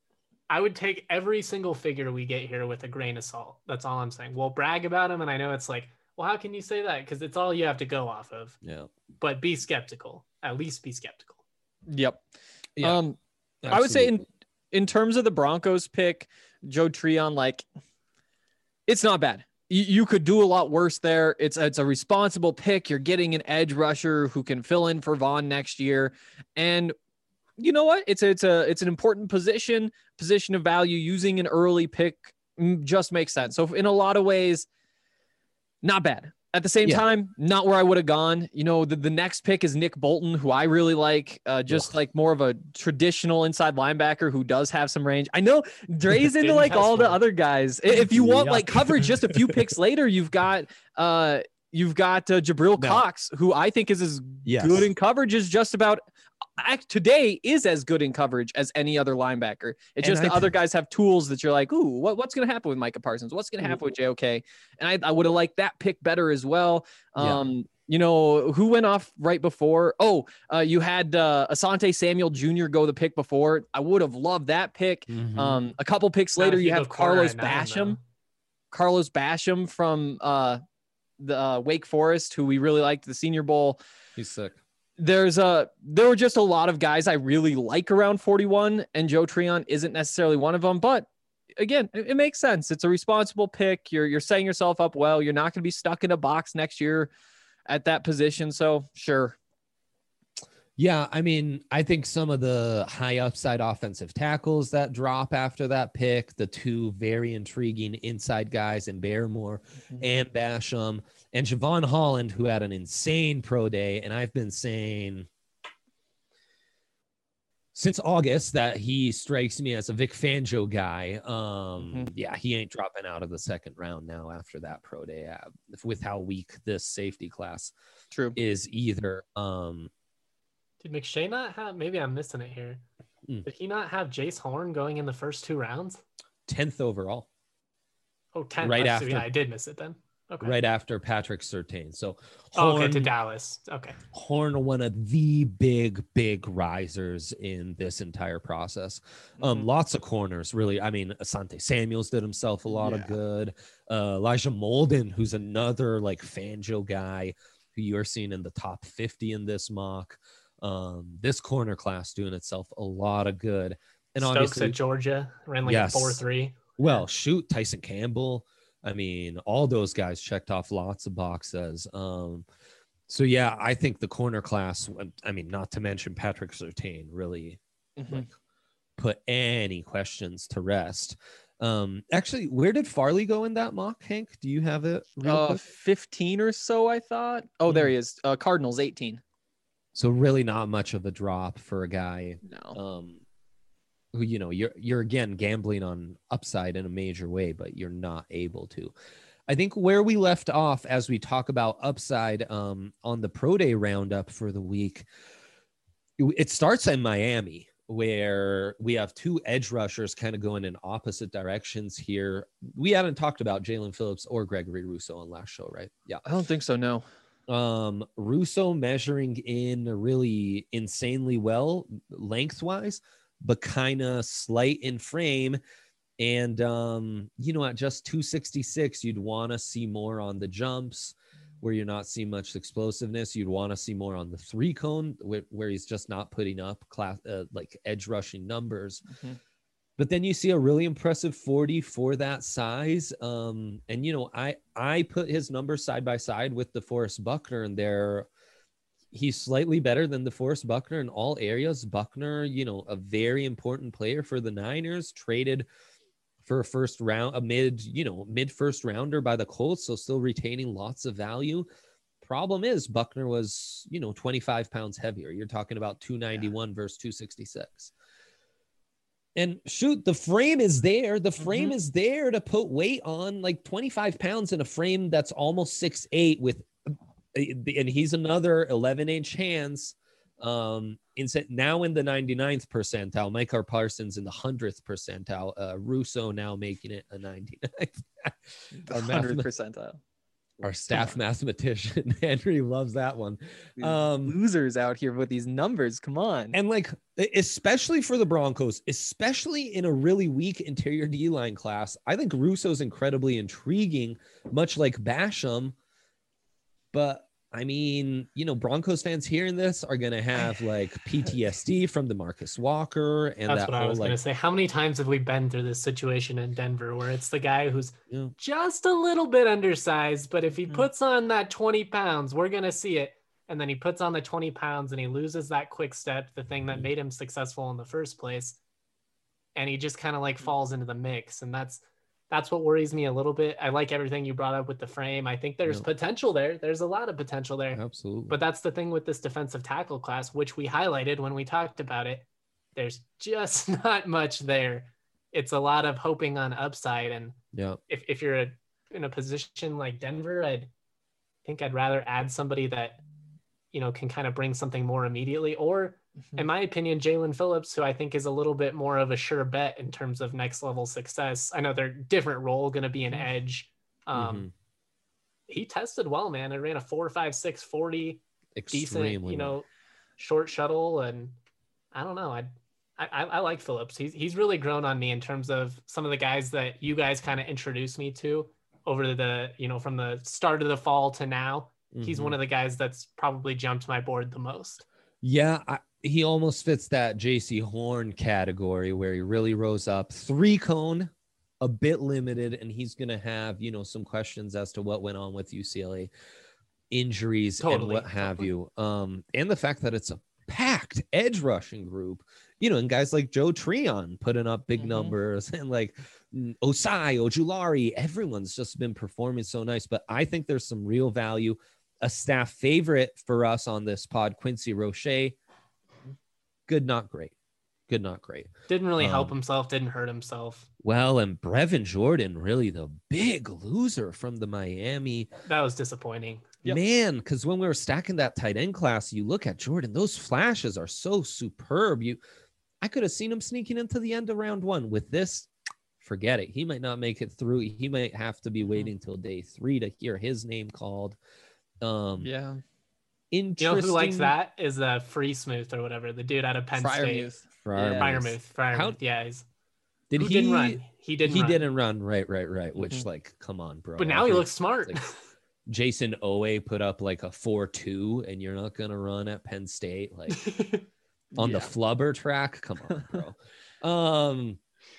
Speaker 4: I would take every single figure we get here with a grain of salt. That's all I'm saying. We'll brag about him, and I know it's like, well, how can you say that? Because it's all you have to go off of.
Speaker 2: Yeah.
Speaker 4: But be skeptical. At least be skeptical.
Speaker 1: Yep.
Speaker 2: Yeah.
Speaker 1: I would say in terms of the Broncos pick, Joe Tryon, like, it's not bad. You could do a lot worse there. It's a responsible pick. You're getting an edge rusher who can fill in for Vaughn next year. And you know what? It's an important position of value. Using an early pick just makes sense. So in a lot of ways, not bad. At the same time, not where I would have gone. You know, the next pick is Nick Bolton, who I really like, like more of a traditional inside linebacker who does have some range. I know Dre's into like all the other guys. If you want like coverage, just a few picks later, you've got Jabril Cox, who I think is as good in coverage as just about today is as good in coverage as any other linebacker. It's just the other guys have tools that you're like, ooh, what's going to happen with Micah Parsons? What's going to happen with JOK? And I would have liked that pick better as well. You know, who went off right before? You had Asante Samuel Jr. go the pick before. I would have loved that pick. A couple picks later, you have Carlos Basham. Carlos Basham from the Wake Forest, who we really liked, the Senior Bowl.
Speaker 2: He's sick.
Speaker 1: There were just a lot of guys I really like around 41, and Joe Tryon isn't necessarily one of them. But again, it makes sense. It's a responsible pick. You're setting yourself up well. You're not going to be stuck in a box next year at that position. So sure.
Speaker 2: Yeah, I mean, I think some of the high upside offensive tackles that drop after that pick, the two very intriguing inside guys in Barrymore and Basham, and Javon Holland, who had an insane pro day. And I've been saying since August that he strikes me as a Vic Fangio guy. Yeah, he ain't dropping out of the second round now after that pro day with how weak this safety class is either.
Speaker 4: Did McShay not have, maybe I'm missing it here. Did he not have Jace Horn going in the first 2 rounds?
Speaker 2: 10th overall.
Speaker 4: Oh, 10th.
Speaker 2: Right after.
Speaker 4: Yeah, I did miss it then. Okay.
Speaker 2: Right after Patrick Surtain. So
Speaker 4: Horn, to Dallas. Okay.
Speaker 2: Horn, one of the big risers in this entire process. Lots of corners, really. I mean, Asante Samuels did himself a lot of good. Elijah Molden, who's another like Fangio guy who you're seeing in the top 50 in this mock. This corner class doing itself a lot of good. And
Speaker 4: Stokes
Speaker 2: obviously
Speaker 4: at Georgia ran like a 4.3.
Speaker 2: Well, shoot, Tyson Campbell. I mean, all those guys checked off lots of boxes. So yeah, I think the corner class, I mean, not to mention Patrick Surtain, really like, put any questions to rest. Actually, where did Farley go in that mock, Hank? Do you have it?
Speaker 1: 15 or so, I thought. Oh, there he is. Cardinals 18.
Speaker 2: So really not much of a drop for a guy.
Speaker 1: No.
Speaker 2: Who, you know, you're again gambling on upside in a major way, but you're not able to. I think where we left off as we talk about upside on the pro day roundup for the week, it starts in Miami, where we have 2 edge rushers kind of going in opposite directions here. We haven't talked about Jalen Phillips or Gregory Rousseau on last show, right? Yeah.
Speaker 1: I don't think so, no.
Speaker 2: Rousseau measuring in really insanely well lengthwise, but kind of slight in frame. And, you know, at just 266, you'd want to see more on the jumps where you're not seeing much explosiveness. You'd want to see more on the 3 cone where he's just not putting up like edge rushing numbers. But then you see a really impressive 40 for that size. And, you know, I put his numbers side by side with DeForest Buckner, and he's slightly better than DeForest Buckner in all areas. Buckner, you know, a very important player for the Niners, traded for a mid first rounder by the Colts. So still retaining lots of value. Problem is Buckner was, you know, 25 pounds heavier. You're talking about 291 versus 266. And shoot, the frame is there. The frame is there to put weight on, like 25 pounds in a frame that's almost 6'8" and he's another 11-inch hands. Now in the 99th percentile, Micah Parsons in the 100th percentile, Rousseau now making it a 99th.
Speaker 1: 100th percentile.
Speaker 2: Our staff mathematician Henry loves that one.
Speaker 1: These losers out here with these numbers. Come on.
Speaker 2: And like, especially for the Broncos, especially in a really weak interior D-line class, I think Russo's incredibly intriguing, much like Basham. But I mean, you know, Broncos fans hearing this are going to have like PTSD from DeMarcus Walker. And
Speaker 4: that's
Speaker 2: that
Speaker 4: what I
Speaker 2: whole,
Speaker 4: was going to say. How many times have we been through this situation in Denver where it's the guy who's just a little bit undersized, but if he puts on that 20 pounds, we're going to see it. And then he puts on the 20 pounds and he loses that quick step, the thing that made him successful in the first place. And he just kind of like falls into the mix. And that's what worries me a little bit. I like everything you brought up with the frame. I think there's potential there. There's a lot of potential there.
Speaker 2: Absolutely.
Speaker 4: But that's the thing with this defensive tackle class, which we highlighted when we talked about it. There's just not much there. It's a lot of hoping on upside. And if you're in a position like Denver, I think I'd rather add somebody that, you know, can kind of bring something more immediately, or in my opinion, Jalen Phillips, who I think is a little bit more of a sure bet in terms of next level success. I know they're different role, going to be an edge. He tested well, man. It ran a 4.56 40, decent, you know, short shuttle. And I don't know. I like Phillips. He's really grown on me in terms of some of the guys that you guys kind of introduced me to over the, you know, from the start of the fall to now. He's one of the guys that's probably jumped my board the most.
Speaker 2: Yeah, he almost fits that JC Horn category where he really rose up. 3-cone, a bit limited, and he's going to have, you know, some questions as to what went on with UCLA injuries and what have you. And the fact that it's a packed edge rushing group, you know, and guys like Joe Treon putting up big numbers, and like Osai, Ojulari, everyone's just been performing so nice. But I think there's some real value. A staff favorite for us on this pod, Quincy Roche. Good, not great. Good, not great.
Speaker 4: Didn't really help himself, didn't hurt himself.
Speaker 2: Well, and Brevin Jordan, really the big loser from the Miami.
Speaker 4: That was disappointing.
Speaker 2: Man, because when we were stacking that tight end class, you look at Jordan, those flashes are so superb. I could have seen him sneaking into the end of round 1. With this, forget it. He might not make it through. He might have to be waiting till day 3 to hear his name called.
Speaker 4: Interesting. You know who likes that is Free Smooth or whatever, the dude out of Penn State. Freiermuth. Yeah.
Speaker 2: He
Speaker 4: didn't run. He
Speaker 2: didn't run. Right. Which, like, come on, bro.
Speaker 4: But now he looks smart.
Speaker 2: Like, Jason Owe put up like a 4.2, and you're not gonna run at Penn State, like on the flubber track. Come on, bro.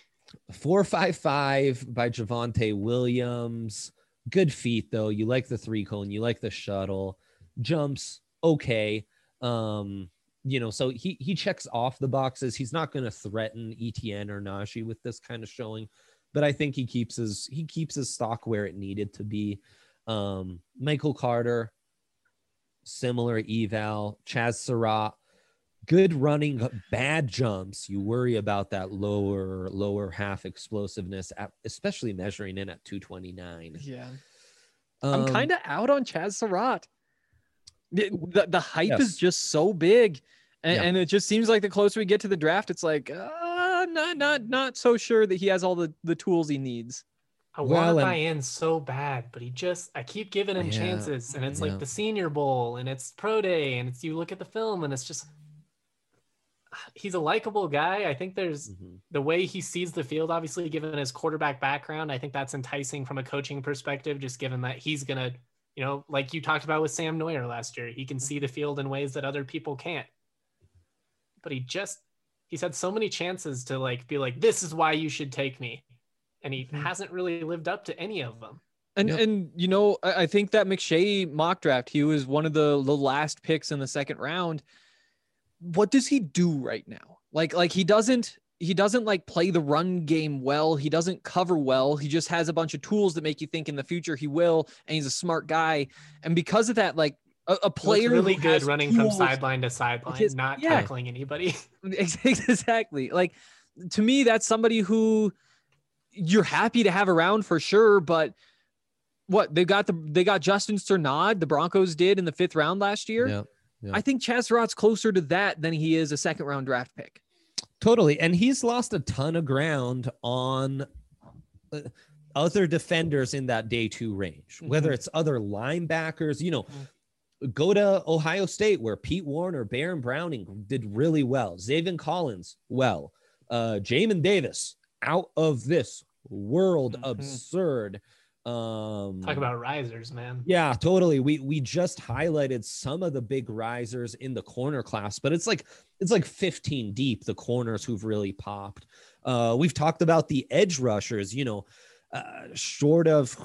Speaker 2: 4.55 by Javonte Williams. Good feet, though. You like the 3-cone. You like the shuttle. Jumps, okay. You know, so he checks off the boxes. He's not going to threaten ETN or Najee with this kind of showing, but I think he keeps his stock where it needed to be. Michael Carter, similar eval. Chaz Surratt, good running, bad jumps. You worry about that lower half explosiveness, especially measuring in at 229.
Speaker 1: Yeah. I'm kind of out on Chaz Surratt. The hype is just so big. And it just seems like the closer we get to the draft, it's like, not so sure that he has all the tools he needs.
Speaker 4: I want to buy in so bad, but I keep giving him chances. And it's like the Senior Bowl and it's Pro Day and you look at the film and it's just, he's a likable guy. I think there's the way he sees the field, obviously given his quarterback background. I think that's enticing from a coaching perspective, just given that he's going to, you know, like you talked about with Sam Neuer last year, he can see the field in ways that other people can't. But he's had so many chances to like, be like, this is why you should take me. And he hasn't really lived up to any of them.
Speaker 1: And you know, I think that McShay mock draft, he was one of the last picks in the second round. What does he do right now? Like he doesn't like play the run game well. He doesn't cover well. He just has a bunch of tools that make you think in the future he will. And he's a smart guy. And because of that, like a player
Speaker 4: really good running from sideline to sideline, not tackling anybody.
Speaker 1: Exactly. Like to me, that's somebody who you're happy to have around for sure. But what they got Justin Strnad, the Broncos did in the 5th round last year.
Speaker 2: Yeah.
Speaker 1: I think Chaz Surratt's closer to that than he is a 2nd round draft pick.
Speaker 2: Totally. And he's lost a ton of ground on other defenders in that day 2 range, whether it's other linebackers, go to Ohio State where Pete Warner, Baron Browning did really well. Zaven Collins, well, Jamin Davis, out of this world, absurd.
Speaker 4: Talk about risers, man.
Speaker 2: Yeah, totally. We just highlighted some of the big risers in the corner class, but it's like 15 deep, the corners who've really popped. We've talked about the edge rushers, short of,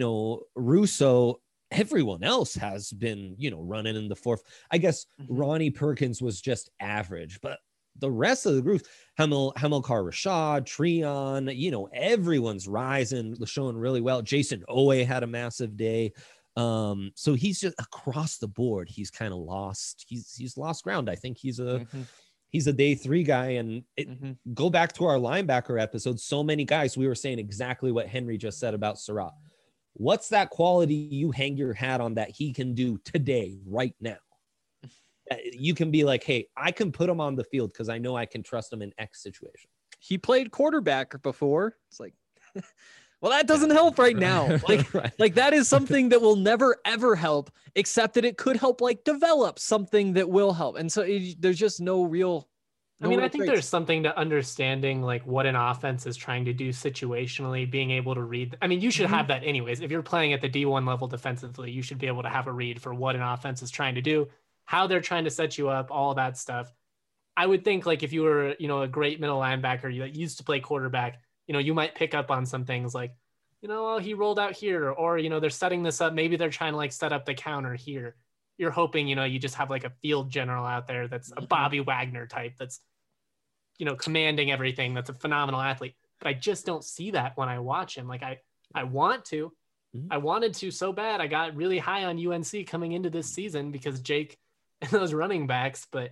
Speaker 2: Russo, everyone else has been, running in the fourth. I guess Ronnie Perkins was just average, but the rest of the group, Hamilcar Rashad, Treon, everyone's rising, showing really well. Jason Owe had a massive day. So he's just across the board. He's kind of lost. He's lost ground. I think he's a day 3 guy. And go back to our linebacker episode. So many guys, we were saying exactly what Henry just said about Surratt. What's that quality you hang your hat on that he can do today, right now? You can be like, hey, I can put him on the field because I know I can trust him in X situation.
Speaker 1: He played quarterback before. It's like, well, that doesn't help right now. Like that is something that will never, ever help, except that it could help like develop something that will help. And so there's just no real.
Speaker 4: I think there's something to understanding like what an offense is trying to do situationally, being able to read. I mean, you should have that anyways. If you're playing at the D1 level defensively, you should be able to have a read for what an offense is trying to do, how they're trying to set you up, all that stuff. I would think like if you were, a great middle linebacker that used to play quarterback, you might pick up on some things like, he rolled out here, or, they're setting this up. Maybe they're trying to like set up the counter here. You're hoping, you just have like a field general out there that's a Bobby Wagner type that's, commanding everything. That's a phenomenal athlete. But I just don't see that when I watch him. Like I want to. I wanted to so bad. I got really high on UNC coming into this season because Jake and those running backs, but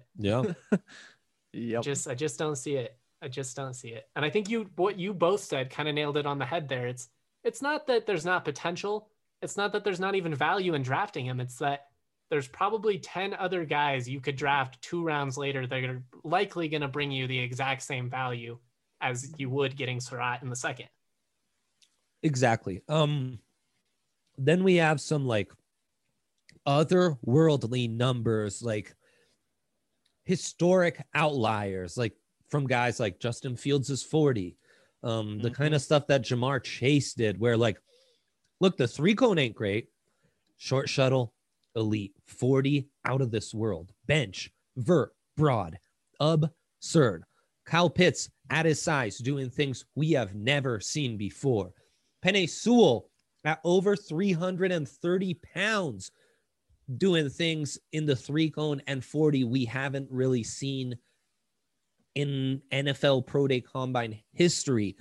Speaker 4: I just don't see it. I just don't see it. And I think what you both said kind of nailed it on the head there. It's not that there's not potential. It's not that there's not even value in drafting him. It's that there's probably 10 other guys you could draft 2 rounds later that are likely going to bring you the exact same value as you would getting Surratt in the second.
Speaker 2: Exactly. Then we have some like otherworldly numbers, like historic outliers, like from guys like Justin Fields is 40. The kind of stuff that Jamar Chase did, where like, look, the 3-cone ain't great. Short shuttle, elite. 40, out of this world. Bench, vert, broad, absurd. Kyle Pitts at his size doing things we have never seen before. Penei Sewell at over 330 pounds doing things in the 3-cone and 40 we haven't really seen in NFL Pro Day Combine history.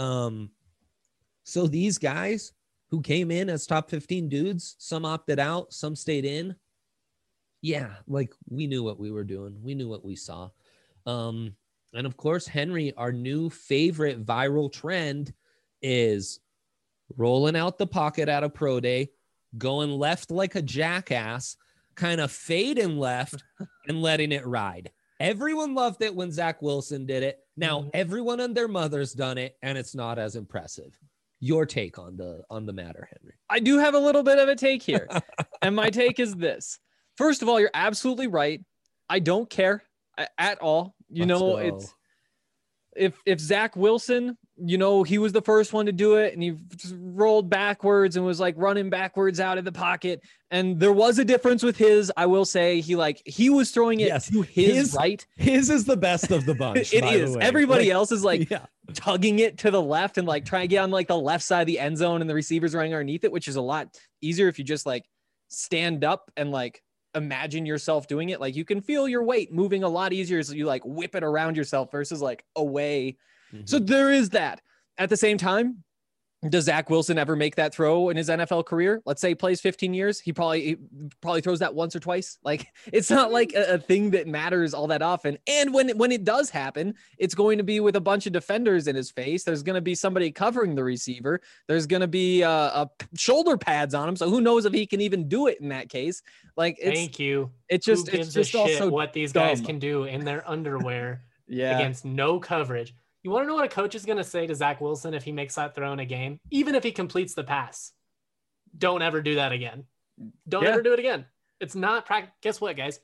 Speaker 2: So these guys who came in as top 15 dudes, some opted out, some stayed in. Yeah, like we knew what we were doing. We knew what we saw. And of course, Henry, our new favorite viral trend is rolling out the pocket at a pro day, going left like a jackass, kind of fading left and letting it ride. Everyone loved it when Zach Wilson did it. Now everyone and their mother's done it, and it's not as impressive. Your take on the matter, Henry?
Speaker 1: I do have a little bit of a take here, and my take is this. First of all, you're absolutely right. I don't care at all. It's if Zach Wilson, he was the first one to do it, and he just rolled backwards and was like running backwards out of the pocket. And there was a difference with his. I will say he was throwing it to his right.
Speaker 2: His is the best of the bunch.
Speaker 1: It is. Everybody else is tugging it to the left and like trying to get on like the left side of the end zone, and the receivers running underneath it, which is a lot easier if you just like stand up and like imagine yourself doing it. Like you can feel your weight moving a lot easier as you like whip it around yourself versus like away. So there is that. At the same time, does Zach Wilson ever make that throw in his NFL career? Let's say he plays 15 years. He probably throws that once or twice. Like it's not like a thing that matters all that often. And when it does happen, it's going to be with a bunch of defenders in his face. There's going to be somebody covering the receiver. There's going to be shoulder pads on him. So who knows if he can even do it in that case? Like
Speaker 4: thank you.
Speaker 1: It's just
Speaker 4: who gives
Speaker 1: it's just
Speaker 4: a shit
Speaker 1: also
Speaker 4: what these guys can do in their underwear against no coverage. You want to know what a coach is going to say to Zach Wilson if he makes that throw in a game? Even if he completes the pass, don't ever do that again. Don't ever do it again. It's not practice. Guess what, guys?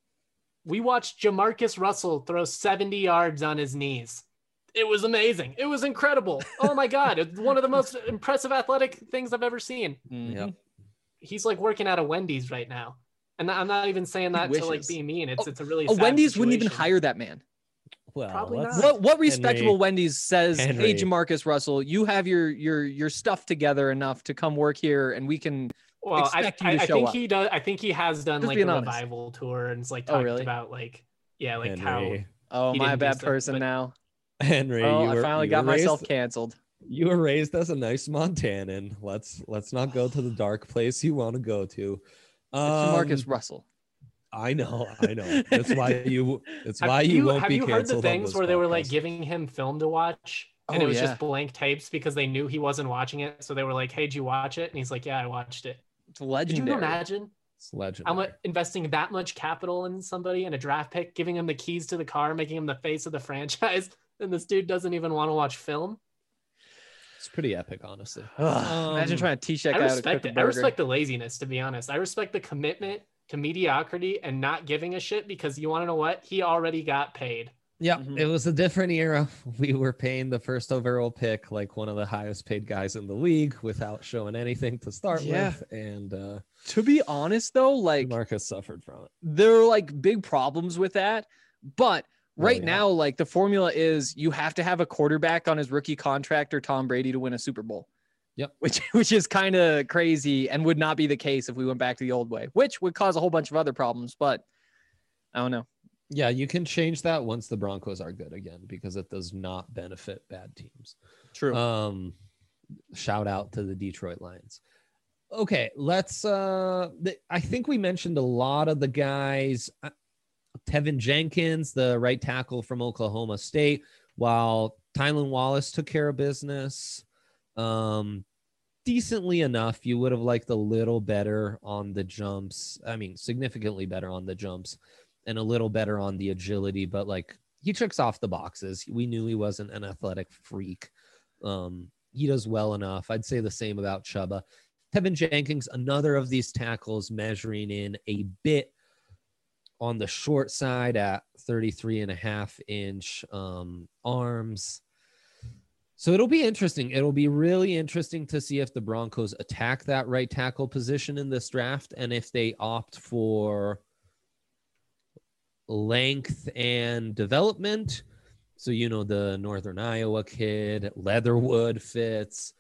Speaker 4: We watched Jamarcus Russell throw 70 yards on his knees. It was amazing. It was incredible. Oh my God. It's one of the most impressive athletic things I've ever seen.
Speaker 2: Yep.
Speaker 4: He's like working at a Wendy's right now. And I'm not even saying that to like be mean. It's a really
Speaker 1: a
Speaker 4: sad
Speaker 1: Wendy's wouldn't even
Speaker 4: situation.
Speaker 1: hire that man.
Speaker 2: Well,
Speaker 4: Probably
Speaker 2: let's-
Speaker 4: not.
Speaker 1: What respectable Wendy's says,
Speaker 2: Henry.
Speaker 1: hey, Jamarcus Russell, you have your stuff together enough to come work here, and we can
Speaker 4: Well,
Speaker 1: expect you to
Speaker 4: I
Speaker 1: show
Speaker 4: think
Speaker 1: up.
Speaker 4: he does. I think he has done
Speaker 1: Just
Speaker 4: like a
Speaker 1: being honest.
Speaker 4: revival tour and it's like
Speaker 1: Oh,
Speaker 4: talked
Speaker 1: really?
Speaker 4: about like, yeah, like
Speaker 2: Henry.
Speaker 1: Oh,
Speaker 4: He
Speaker 1: my
Speaker 4: didn't do
Speaker 1: bad
Speaker 4: stuff,
Speaker 1: person
Speaker 4: but-
Speaker 1: now.
Speaker 2: Henry,
Speaker 1: Oh,
Speaker 2: you
Speaker 1: I
Speaker 2: were-
Speaker 1: finally
Speaker 2: you
Speaker 1: got
Speaker 2: were
Speaker 1: myself
Speaker 2: raised-
Speaker 1: canceled.
Speaker 2: You were raised as a nice Montanan. Let's not go to the dark place you want to go to.
Speaker 1: It's Jamarcus Russell.
Speaker 2: I know. That's why you. It's
Speaker 4: Have
Speaker 2: why you won't
Speaker 4: have
Speaker 2: be
Speaker 4: you heard the
Speaker 2: canceled on
Speaker 4: things
Speaker 2: this
Speaker 4: where they were like
Speaker 2: podcast.
Speaker 4: giving him film to watch and
Speaker 1: Oh,
Speaker 4: it was
Speaker 1: yeah.
Speaker 4: just blank tapes because they knew he wasn't watching it, so they were like, "Hey, did you watch it?" And he's like, "Yeah, I watched it."
Speaker 1: It's
Speaker 4: Could
Speaker 1: legendary.
Speaker 4: you imagine?
Speaker 2: It's legendary.
Speaker 4: I'm investing that much capital in somebody in a draft pick, giving him the keys to the car, making him the face of the franchise, and this dude doesn't even want to watch film.
Speaker 2: It's pretty epic, honestly.
Speaker 1: Ugh, imagine trying to teach that
Speaker 4: I
Speaker 1: guy how to
Speaker 4: respect
Speaker 1: cook a
Speaker 4: it. I
Speaker 1: burger.
Speaker 4: respect the laziness, to be honest. I respect the commitment to mediocrity and not giving a shit because you want to know what? He already got paid.
Speaker 2: Yeah,
Speaker 1: Mhm.
Speaker 2: it was a different era. We were paying the first overall pick like one of the highest paid guys in the league without showing anything to start
Speaker 1: Yeah.
Speaker 2: with, and
Speaker 1: To be honest, though, like
Speaker 2: Marcus suffered from it.
Speaker 1: there are like big problems with that. But right
Speaker 2: yeah.
Speaker 1: now, like the formula is you have to have a quarterback on his rookie contract or Tom Brady to win a Super Bowl.
Speaker 2: Yep.
Speaker 1: Which is kind of crazy and would not be the case if we went back to the old way, which would cause a whole bunch of other problems. But I don't know.
Speaker 2: Yeah, you can change that once the Broncos are good again because it does not benefit bad teams.
Speaker 1: True.
Speaker 2: Shout out to the Detroit Lions. Okay, let's I think we mentioned a lot of the guys. Tevin Jenkins, the right tackle from Oklahoma State, while Tylan Wallace took care of business decently enough. You would have liked a little better on the jumps. I mean, significantly better on the jumps and a little better on the agility, but like he checks off the boxes. We knew he wasn't an athletic freak. He does well enough. I'd say the same about Chuba. Tevin Jenkins, another of these tackles measuring in a bit on the short side at 33.5-inch arms. So it'll be interesting. It'll be really interesting to see if the Broncos attack that right tackle position in this draft and if they opt for length and development. So, you know, the Northern Iowa kid, Leatherwood fits.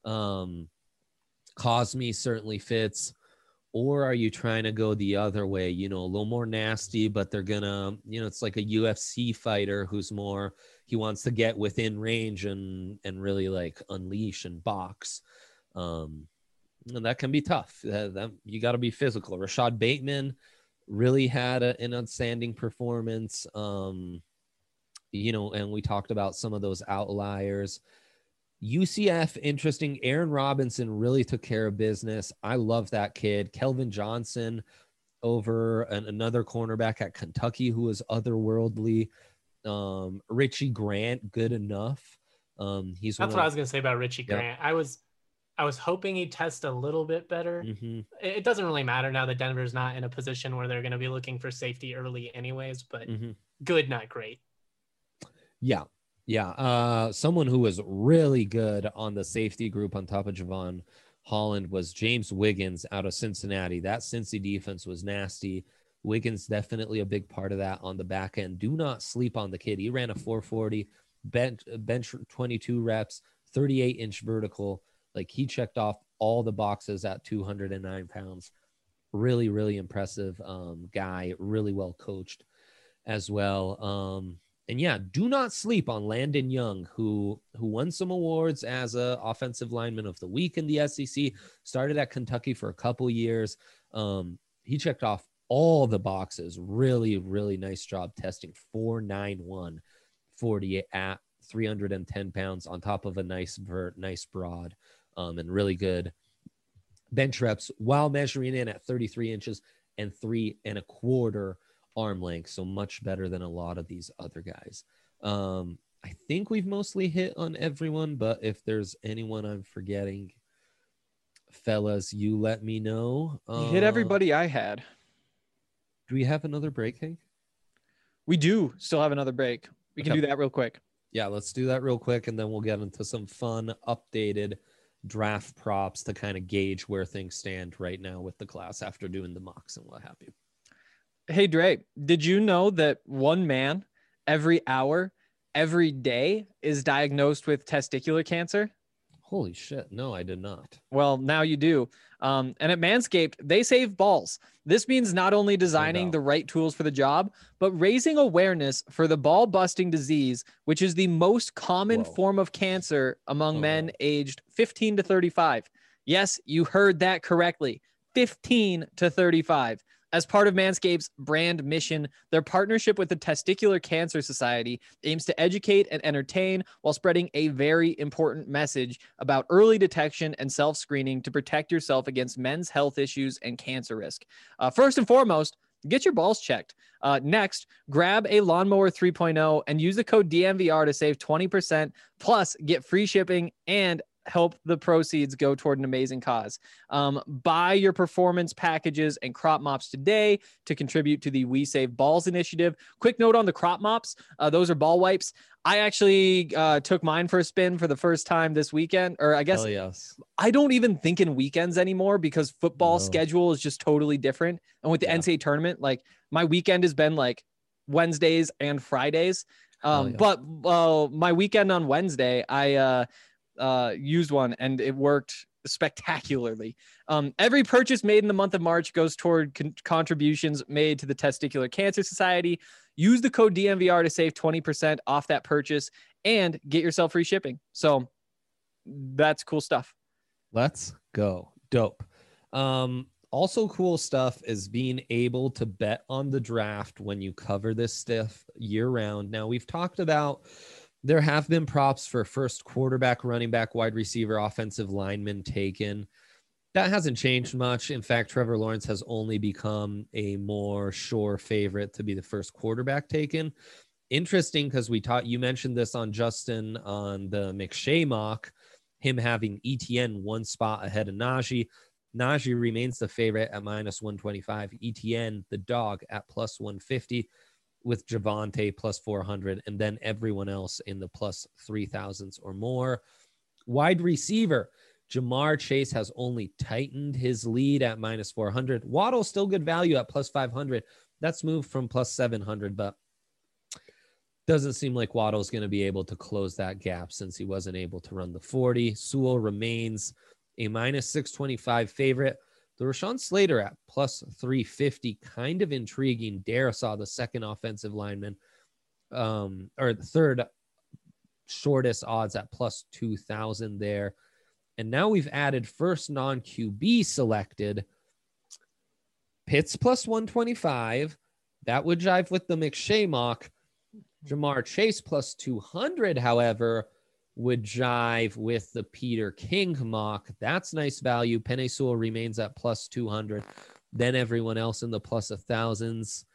Speaker 2: Cosme certainly fits. Or are you trying to go the other way, you know, a little more nasty, but they're gonna, you know, it's like a UFC fighter who's more, he wants to get within range and really like unleash and box. And that can be tough. That you got to be physical. Rashad Bateman really had an outstanding performance. You know, and we talked about some of those outliers. UCF, interesting. Aaron Robinson really took care of business. I love that kid. Kelvin Johnson over another cornerback at Kentucky who was otherworldly. Richie Grant, good enough. That's
Speaker 4: what I was going to say about Richie Grant. I was hoping he'd test a little bit better.
Speaker 2: Mm-hmm.
Speaker 4: It doesn't really matter now that Denver's not in a position where they're going to be looking for safety early anyways, but good, not great.
Speaker 2: Yeah. Yeah. Someone who was really good on the safety group on top of Javon Holland was James Wiggins out of Cincinnati. That Cincy defense was nasty. Wiggins definitely a big part of that on the back end. Do not sleep on the kid. He ran a 440, bench 22 reps, 38-inch vertical. Like he checked off all the boxes at 209 pounds. Really, really impressive guy. Really well coached as well. And yeah, do not sleep on Landon Young, who won some awards as a offensive lineman of the week in the SEC, started at Kentucky for a couple years. He checked off all the boxes. Really, really nice job testing 4.91 40 at 310 pounds on top of a nice vert, nice broad, and really good bench reps while measuring in at 33 inches and 3.25 arm length, so much better than a lot of these other guys. I think we've mostly hit on everyone, but if there's anyone I'm forgetting, fellas, you let me know.
Speaker 1: You hit everybody I had.
Speaker 2: Do we have another break, Hank?
Speaker 1: We do still have another break. We can
Speaker 2: Okay.
Speaker 1: do that real quick.
Speaker 2: Yeah, let's do that real quick, and then we'll get into some fun, updated draft props to kind of gauge where things stand right now with the class after doing the mocks and what have you.
Speaker 1: Hey, Dre, did you know that one man every hour, every day is diagnosed with testicular cancer?
Speaker 2: Holy shit. No, I did not.
Speaker 1: Well, now you do. And at Manscaped, they save balls. This means not only designing the right tools for the job, but raising awareness for the ball busting disease, which is the most common form of cancer among men aged 15 to 35. Yes, you heard that correctly. 15 to 35. As part of Manscaped's brand mission, their partnership with the Testicular Cancer Society aims to educate and entertain while spreading a very important message about early detection and self-screening to protect yourself against men's health issues and cancer risk. First and foremost, get your balls checked. Next, grab a Lawnmower 3.0 and use the code DMVR to save 20%, plus get free shipping and help the proceeds go toward an amazing cause. Buy your performance packages and crop mops today to contribute to the We Save Balls initiative. Quick note on the crop mops. Those are ball wipes. I actually took mine for a spin for the first time this weekend, or I guess I don't even think in weekends anymore because football schedule is just totally different. And with the NCAA tournament, like my weekend has been like Wednesdays and Fridays. But my weekend on Wednesday, I used one and it worked spectacularly. Every purchase made in the month of March goes toward contributions made to the Testicular Cancer Society. Use the code DMVR to save 20% off that purchase and get yourself free shipping. So that's cool stuff.
Speaker 2: Let's go. Dope. Also cool stuff is being able to bet on the draft when you cover this stuff year round. Now we've talked about there have been props for first quarterback, running back, wide receiver, offensive lineman taken. That hasn't changed much. In fact, Trevor Lawrence has only become a more sure favorite to be the first quarterback taken. Interesting because you mentioned this on Justin on the McShay mock, him having ETN one spot ahead of Najee. Najee remains the favorite at -125. ETN, the dog, at +150. With Javonte plus 400, and then everyone else in the plus 3,000s or more. Wide receiver, Jamar Chase has only tightened his lead at -400. Waddle still good value at plus 500. That's moved from plus 700, but doesn't seem like Waddle's going to be able to close that gap since he wasn't able to run the 40. Sewell remains a -625 favorite. The Rashawn Slater at plus 350, kind of intriguing. Dare saw the second offensive lineman, or the third shortest odds at plus 2,000 there. And now we've added first non-QB selected. Pitts plus 125. That would jive with the McShay mock. Jamar Chase plus 200, however, would jive with the Peter King mock. That's nice value. Penei Sewell remains at plus 200. Then everyone else in the plus 1,000s.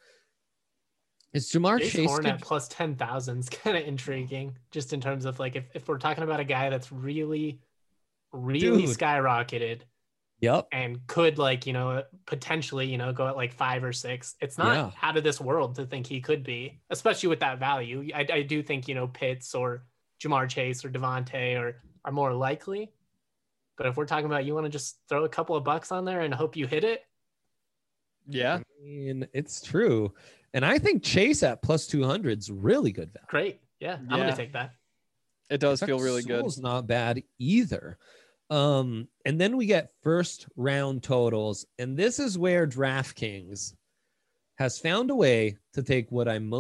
Speaker 2: Is Jamar Chase
Speaker 4: Horn at plus 10,000 is kind of intriguing, just in terms of like if we're talking about a guy that's really skyrocketed.
Speaker 2: Yep.
Speaker 4: And could potentially, go at like 5 or 6. It's not out of this world to think he could be, especially with that value. I do think, Pitts or Jamar Chase or Devontae are more likely. But if we're talking about you want to just throw a couple of bucks on there and hope you hit it.
Speaker 1: Yeah.
Speaker 2: I mean, it's true. And I think Chase at plus 200 is really good value.
Speaker 4: Great. Yeah. I'm going to take that.
Speaker 1: It does feel really good.
Speaker 2: It's not bad either. And then we get first round totals. And this is where DraftKings has found a way to take what I'm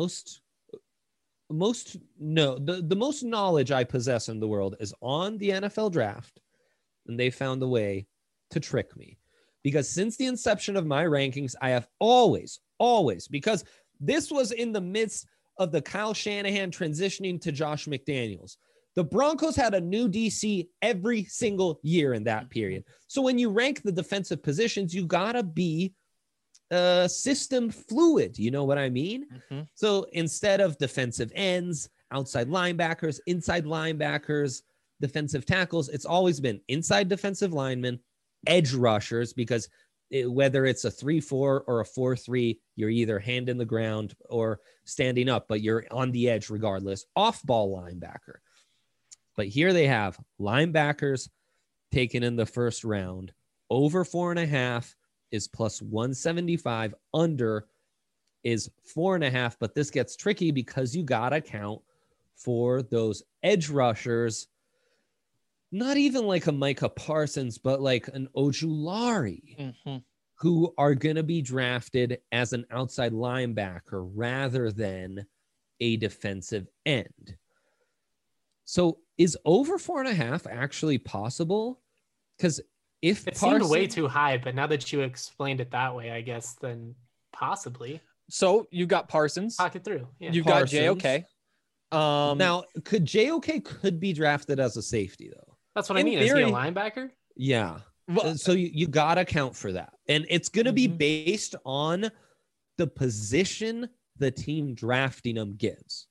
Speaker 2: the most knowledge I possess in the world is on the NFL draft, and they found a way to trick me. Because since the inception of my rankings, I have always, because this was in the midst of the Kyle Shanahan transitioning to Josh McDaniels. The Broncos had a new DC every single year in that period. So when you rank the defensive positions, you gotta be system fluid. You know what I mean? So instead of defensive ends, outside linebackers, inside linebackers, defensive tackles. It's always been inside defensive linemen, edge rushers, because whether it's a 3-4 or a 4-3, you're either hand in the ground or standing up, but you're on the edge regardless. Off-ball linebacker. But here they have linebackers taken in the first round. Over 4.5 is plus 175. Under is 4.5. But this gets tricky because you got to count for those edge rushers. Not even like a Micah Parsons, but like an Ojulari, who are going to be drafted as an outside linebacker rather than a defensive end. So is over 4.5 actually possible? Because if
Speaker 4: it seemed way too high, but now that you explained it that way, I guess then possibly.
Speaker 1: So you got Parsons.
Speaker 4: Talk it through. Yeah.
Speaker 1: You've got JOK.
Speaker 2: Now, could JOK could be drafted as a safety though?
Speaker 4: That's what I mean. Theory, is he a linebacker?
Speaker 2: Yeah. Well, so you got to count for that. And it's going to be based on the position the team drafting him gives.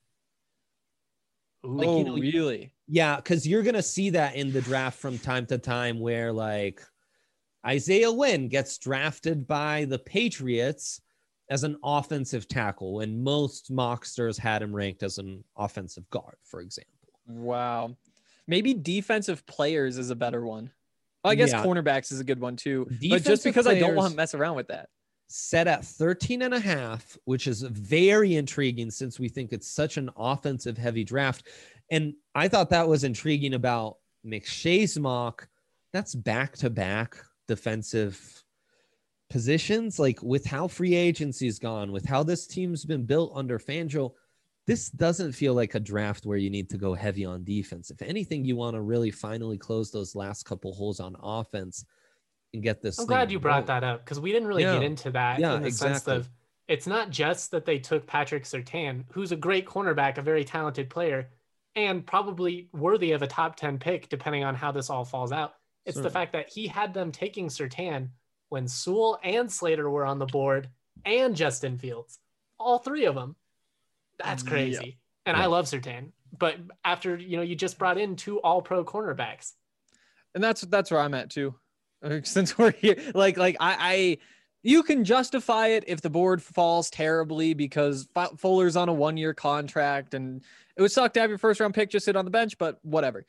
Speaker 1: Like, really?
Speaker 2: Yeah, because you're going to see that in the draft from time to time where like Isaiah Wynn gets drafted by the Patriots as an offensive tackle when most mocksters had him ranked as an offensive guard, for example.
Speaker 1: Wow. Maybe defensive players is a better one. Well, I guess cornerbacks is a good one too. But just because I don't want to mess around with that.
Speaker 2: Set at 13.5, which is very intriguing since we think it's such an offensive heavy draft. And I thought that was intriguing about McShay's mock. That's back-to-back defensive positions. Like with how free agency's gone, with how this team's been built under Fangio, this doesn't feel like a draft where you need to go heavy on defense. If anything, you want to really finally close those last couple holes on offense and get this.
Speaker 4: I'm glad you brought that up because we didn't really get into that in the sense of it's not just that they took Patrick Surtain, who's a great cornerback, a very talented player, and probably worthy of a top 10 pick, depending on how this all falls out. It's the fact that he had them taking Surtain when Sewell and Slater were on the board and Justin Fields, all three of them. That's crazy. And I love Surtain, but after, you just brought in 2 all-pro cornerbacks.
Speaker 1: And that's where I'm at too. Since we're here, I you can justify it if the board falls terribly because Fuller's on a 1-year contract and it would suck to have your first round pick just sit on the bench, but whatever.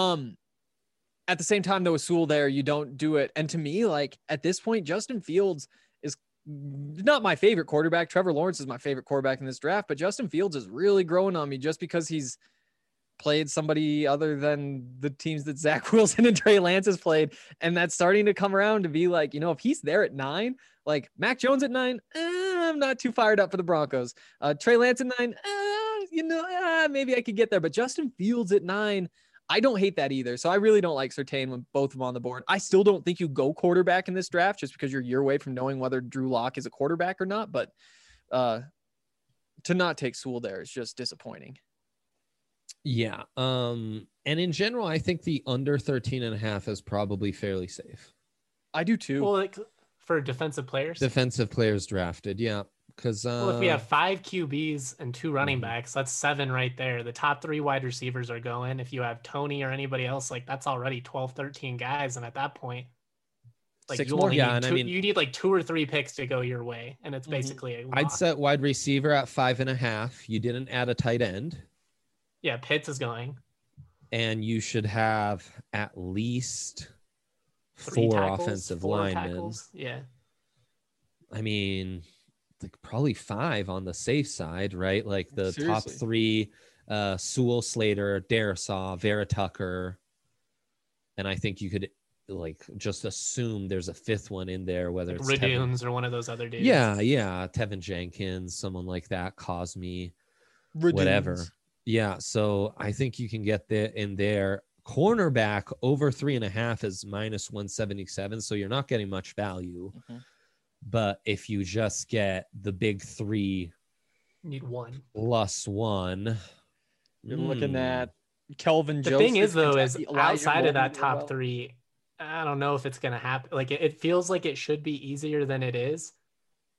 Speaker 1: At the same time, though, with Sewell there, you don't do it. And to me, like at this point, Justin Fields is not my favorite quarterback. Trevor Lawrence is my favorite quarterback in this draft, but Justin Fields is really growing on me just because he's played somebody other than the teams that Zach Wilson and Trey Lance has played. And that's starting to come around to be like, if he's there at 9, like Mac Jones at 9, I'm not too fired up for the Broncos. Trey Lance at 9, maybe I could get there, but Justin Fields at 9, I don't hate that either. So I really don't like Surtain when both of them on the board. I still don't think you go quarterback in this draft just because you're a year away from knowing whether Drew Lock is a quarterback or not. But to not take Sewell there is just disappointing.
Speaker 2: Yeah. And in general, I think the under 13.5 is probably fairly safe.
Speaker 1: I do too.
Speaker 4: Well, like for defensive players
Speaker 2: drafted. Yeah. Because
Speaker 4: if we have 5 QBs and 2 running backs, that's 7 right there. The top 3 wide receivers are going. If you have Tony or anybody else, like that's already 12, 13 guys. And at that point, like
Speaker 1: 6
Speaker 4: you
Speaker 1: more.
Speaker 4: only need you need like 2 or 3 picks to go your way. And it's basically a lock.
Speaker 2: I'd set wide receiver at 5.5. You didn't add a tight end.
Speaker 4: Yeah, Pitts is going.
Speaker 2: And you should have at least 4 offensive linemen.
Speaker 4: Yeah.
Speaker 2: I mean, like probably 5 on the safe side, right? Like the top 3, Sewell, Slater, Darisaw, Vera Tucker. And I think you could like just assume there's a 5th one in there, whether it's
Speaker 4: Radunes or one of those other dudes.
Speaker 2: Yeah. Tevin Jenkins, someone like that, Cosme, whatever. Yeah. So I think you can get there in there. Cornerback over 3.5 is minus 177. So you're not getting much value. But if you just get the big 3,
Speaker 4: need 1
Speaker 2: plus 1,
Speaker 1: you're looking at Kelvin Joseph.
Speaker 4: The thing is, though, is outside of that top 3, I don't know if it's going to happen. Like it feels like it should be easier than it is.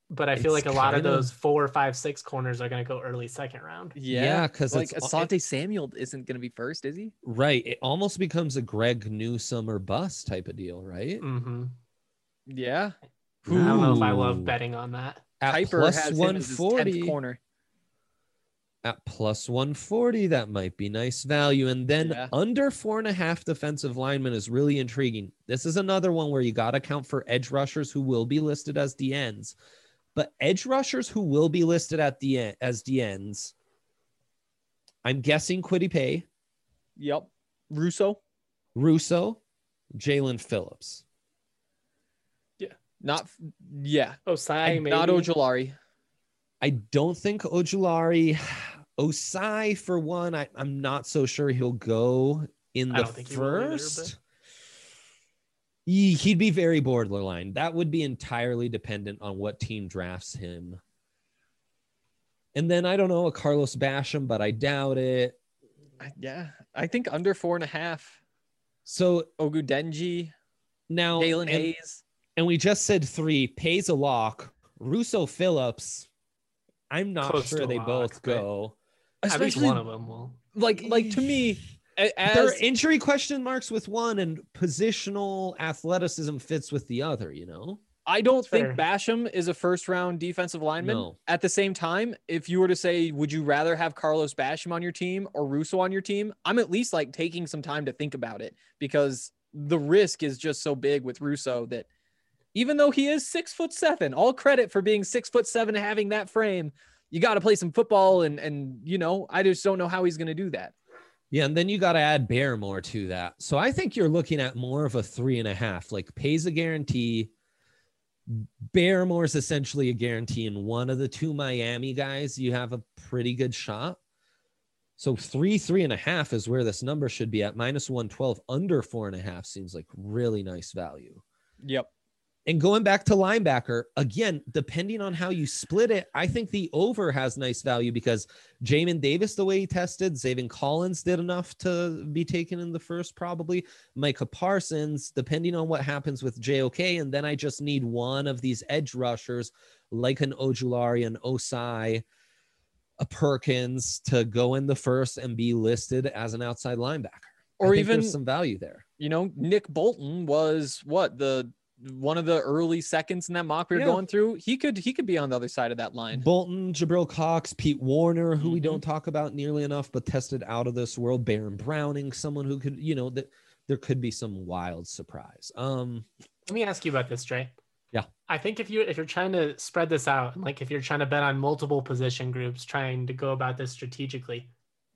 Speaker 4: But I feel
Speaker 2: It's
Speaker 4: like a lot of
Speaker 2: kinda-
Speaker 4: those 4, 5, 6 corners are going to go early second round.
Speaker 2: Yeah, 'cause
Speaker 1: like
Speaker 2: it's-
Speaker 1: Asante Samuel isn't going to be first, is he?
Speaker 2: Right. It almost becomes a Greg Newsome or bust type of deal, right?
Speaker 4: Mm-hmm.
Speaker 1: Yeah.
Speaker 4: I don't know if I
Speaker 2: Ooh.
Speaker 4: love betting on that.
Speaker 2: At
Speaker 1: Kuiper
Speaker 2: plus
Speaker 1: has him as his 10th
Speaker 2: 140.
Speaker 1: corner.
Speaker 2: At plus 140, that might be nice value. And then
Speaker 1: Yeah.
Speaker 2: under 4.5 defensive linemen is really intriguing. This is another one where you got to count for edge rushers who will be listed as DNs. But edge rushers who will be listed at the end as DNs, I'm guessing Kwity Paye,
Speaker 1: Yep. Russo.
Speaker 2: Russo, Jalen Phillips.
Speaker 1: Not. Yeah.
Speaker 4: Osai, maybe.
Speaker 1: Not Ojolari.
Speaker 2: I don't think Ojulari, Osai for one. I'm not so sure he'll go in
Speaker 4: I
Speaker 2: the
Speaker 4: don't think he will either,
Speaker 2: first. He'd be very borderline. That would be entirely dependent on what team drafts him. And then I don't know, a Carlos Basham, but I doubt it.
Speaker 1: Yeah. I think under 4.5.
Speaker 2: So
Speaker 1: Ogudenji.
Speaker 2: now,
Speaker 1: Jalen
Speaker 2: and,
Speaker 1: Hayes.
Speaker 2: and we just said 3. Pays a lock. Russo Phillips. I'm not
Speaker 4: Close
Speaker 2: sure
Speaker 4: to
Speaker 2: they
Speaker 4: lock,
Speaker 2: both
Speaker 4: but-
Speaker 2: go.
Speaker 4: At least one of them will.
Speaker 1: Like to me,
Speaker 2: There
Speaker 1: as
Speaker 2: are injury question marks with one, and positional athleticism fits with the other, you know?
Speaker 1: I don't
Speaker 4: That's
Speaker 1: think
Speaker 4: fair.
Speaker 1: Basham is a first round defensive lineman.
Speaker 2: No.
Speaker 1: At the same time, if you were to say, would you rather have Carlos Basham on your team or Russo on your team? I'm at least like taking some time to think about it because the risk is just so big with Russo that even though he is 6'7", all credit for being 6'7" and having that frame, you got to play some football. And, you know, I just don't know how he's going to do that.
Speaker 2: Yeah, and then you got to add Barrymore to that. So I think you're looking at more of a 3.5, like pays a guarantee. Barrymore is essentially a guarantee, and one of the 2 Miami guys, you have a pretty good shot. So 3.5 is where this number should be at. Minus 112, under 4.5 seems like really nice value.
Speaker 1: Yep.
Speaker 2: And going back to linebacker, again, depending on how you split it, I think the over has nice value because Jamin Davis, the way he tested, Zaven Collins did enough to be taken in the first, probably. Micah Parsons, depending on what happens with JOK. And then I just need one of these edge rushers like an Ojulari, an Osai, a Perkins to go in the first and be listed as an outside linebacker.
Speaker 1: Or
Speaker 2: I think
Speaker 1: even
Speaker 2: there's some value there.
Speaker 1: You know, Nick Bolton was one of the early seconds in that mock we were
Speaker 2: Yeah.
Speaker 1: going through. He could be on the other side of that line.
Speaker 2: Bolton, Jabril Cox, Pete Warner, who we don't talk about nearly enough, but tested out of this world. Baron Browning, someone who could, you know, that there could be some wild surprise.
Speaker 4: Let me ask you about this, Dre.
Speaker 2: Yeah.
Speaker 4: I think if you're trying to spread this out, and like if you're trying to bet on multiple position groups, trying to go about this strategically,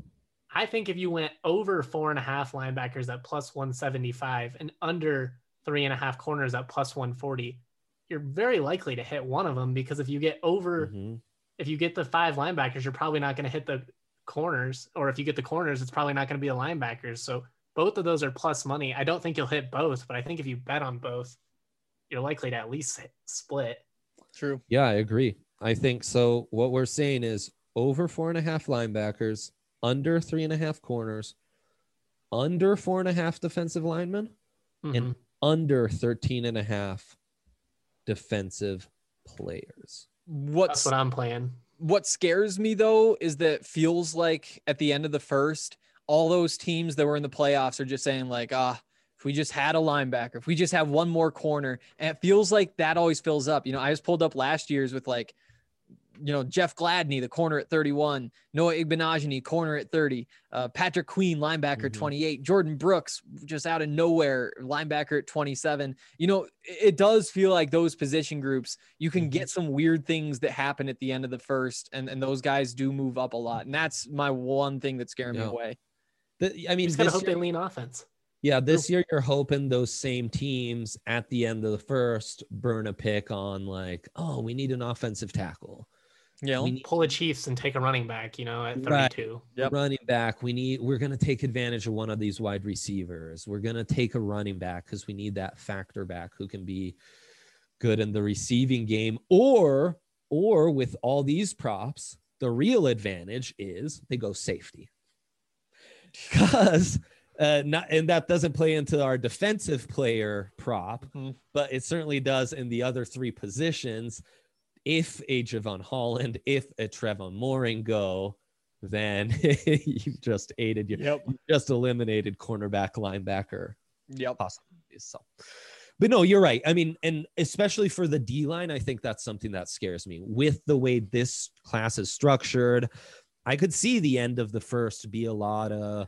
Speaker 4: I think if you went over 4.5 linebackers at plus 175 and under 3.5 corners at plus 140, you're very likely to hit one of them because if you get over, if you get the 5 linebackers, you're probably not going to hit the corners, or if you get the corners, it's probably not going to be the linebackers. So both of those are plus money. I don't think you'll hit both, but I think if you bet on both, you're likely to at least split.
Speaker 1: True.
Speaker 2: Yeah, I agree. I think so. What we're saying is over 4.5 linebackers, under 3.5 corners, under 4.5 defensive linemen, and under 13.5 defensive players.
Speaker 4: That's what I'm playing.
Speaker 1: What scares me though is that it feels like at the end of the first, all those teams that were in the playoffs are just saying like, if we just had a linebacker, if we just have one more corner, and it feels like that always fills up. You know, I just pulled up last year's with like, you know, Jeff Gladney, the corner at 31, Noah Igbenogany, corner at 30, Patrick Queen, linebacker, 28, Jordan Brooks, just out of nowhere, linebacker at 27. You know, it does feel like those position groups, you can get some weird things that happen at the end of the first, and those guys do move up a lot. And that's my one thing that's scaring me away.
Speaker 2: I mean,
Speaker 4: just gotta hope they lean offense.
Speaker 2: Yeah, this year you're hoping those same teams at the end of the first burn a pick on like, oh, we need an offensive tackle.
Speaker 1: Yeah,
Speaker 2: we need,
Speaker 4: pull a Chiefs and take a running back, you know, at 32.
Speaker 2: Running back. We're going to take advantage of one of these wide receivers. We're going to take a running back because we need that factor back who can be good in the receiving game. Or with all these props, the real advantage is they go safety. Because and that doesn't play into our defensive player prop, but it certainly does in the other 3 positions. if a Javon Holland, if a Trevon Mooring go, then you've just you just eliminated cornerback, linebacker possibilities. So, but no, you're right. I mean, and especially for the D line, I think that's something that scares me with the way this class is structured. I could see the end of the first be a lot of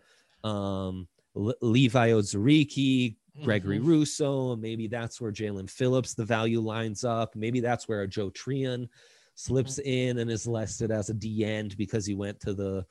Speaker 2: Levi Ozariki, Gregory Rousseau. Maybe that's where Jalen Phillips, the value lines up. Maybe that's where a Joe Trion slips in and is listed as a D end because he went to the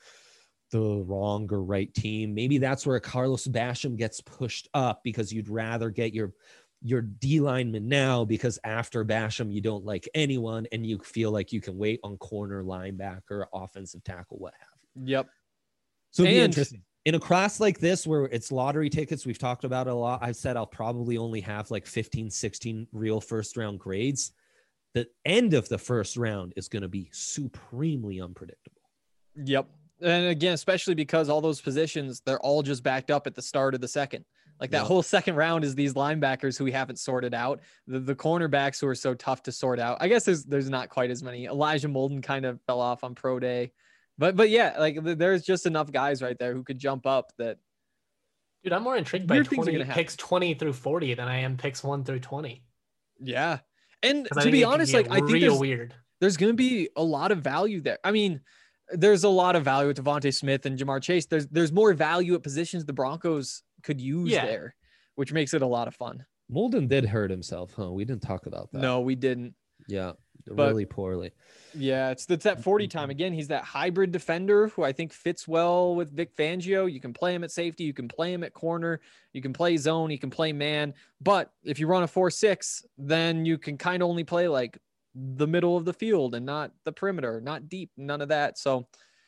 Speaker 2: wrong or right team. Maybe that's where Carlos Basham gets pushed up because you'd rather get your D lineman now because after Basham, you don't like anyone and you feel like you can wait on corner, linebacker, offensive tackle, what have you.
Speaker 1: Yep.
Speaker 2: So it'd be interesting. In a class like this where it's lottery tickets, we've talked about it a lot. I've said I'll probably only have like 15, 16 real first round grades. The end of the first round is going to be supremely unpredictable.
Speaker 1: Yep. And again, especially because all those positions, they're all just backed up at the start of the second. Like that whole second round is these linebackers who we haven't sorted out. The cornerbacks who are so tough to sort out. I guess there's not quite as many. Elijah Molden kind of fell off on pro day. But yeah, like there's just enough guys right there who could jump up that.
Speaker 4: Dude, I'm more intrigued by picks 20 through 40 than I am picks 1 through 20.
Speaker 1: Yeah. And to be honest, like I think
Speaker 4: weird.
Speaker 1: There's going to be a lot of value there. I mean, there's a lot of value with Devontae Smith and Jamar Chase. There's more value at positions the Broncos could use there, which makes it a lot of fun.
Speaker 2: Molden did hurt himself, huh? We didn't talk about that.
Speaker 1: No, we didn't.
Speaker 2: Yeah, really poorly.
Speaker 1: Yeah, it's that 40 time. Again, he's that hybrid defender who I think fits well with Vic Fangio. You can play him at safety. You can play him at corner. You can play zone. You can play man. But if you run a 4-6, then you can kind of only play like the middle of the field and not the perimeter, not deep, none of that. So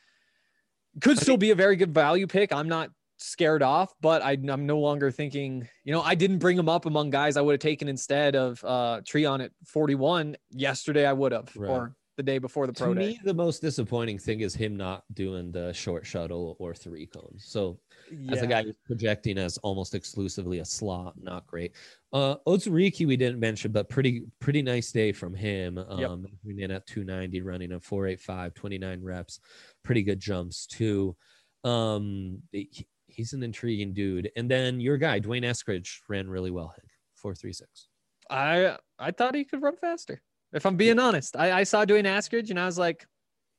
Speaker 1: could still be a very good value pick. I'm not scared off, but I'm no longer thinking, I didn't bring him up among guys I would have taken instead of Treon at 41 yesterday. I would have, or the day before the pro day.
Speaker 2: To me, the most disappointing thing is him not doing the short shuttle or 3 cones. So as a guy who's projecting as almost exclusively a slot, not great. Ozariki we didn't mention, but pretty nice day from him. Coming in at 290, running a 4.85, 29 reps, pretty good jumps too. He's an intriguing dude. And then your guy, Dwayne Eskridge, ran really well. 4.36.
Speaker 1: I thought he could run faster. If I'm being honest, I saw Dwayne Eskridge and I was like,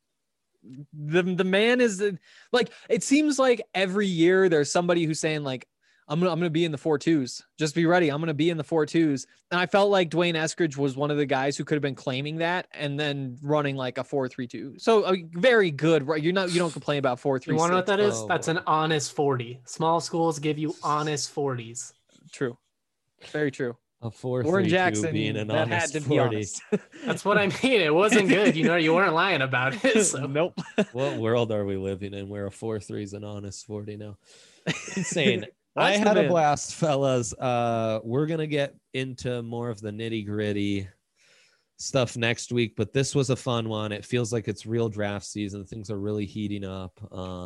Speaker 1: the man is like, it seems like every year there's somebody who's saying like, I'm gonna be in the 4.2s. Just be ready. I'm gonna be in the 4.2s. And I felt like Dwayne Eskridge was one of the guys who could have been claiming that and then running like a 4.32. So very good, right? You don't complain about 4.36.
Speaker 4: You want to know what that is? That's an honest 40. Small schools give you honest 40s.
Speaker 1: True. Very true.
Speaker 2: A 4.32
Speaker 1: Warren Jackson
Speaker 2: being an
Speaker 1: that
Speaker 2: honest
Speaker 1: had to
Speaker 2: 40.
Speaker 1: be honest.
Speaker 4: That's what I mean. It wasn't good. You weren't lying about it. So.
Speaker 1: Nope.
Speaker 2: What world are we living in where a 4.3 is an honest 40 now? Insane. I
Speaker 1: That's
Speaker 2: had a blast, fellas. We're going to get into more of the nitty gritty stuff next week, but this was a fun one. It feels like it's real draft season. Things are really heating up.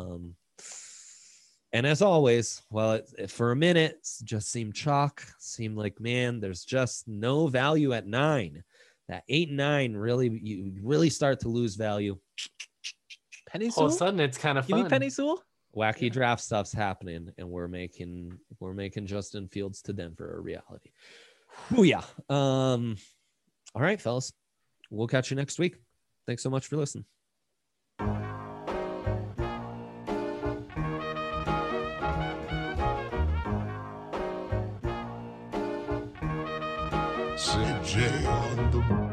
Speaker 2: And as always, for a minute, it just seemed chalk. Seemed like, man, there's just no value at 9. That 8 and 9 you really start to lose value.
Speaker 1: Penny Sewell?
Speaker 4: All of a sudden, it's kind of fun.
Speaker 1: Give me Penny Sewell?
Speaker 2: Wacky draft stuff's happening, and we're making Justin Fields to Denver a reality. Oh yeah. All right, fellas. We'll catch you next week. Thanks so much for listening.
Speaker 3: CJ on the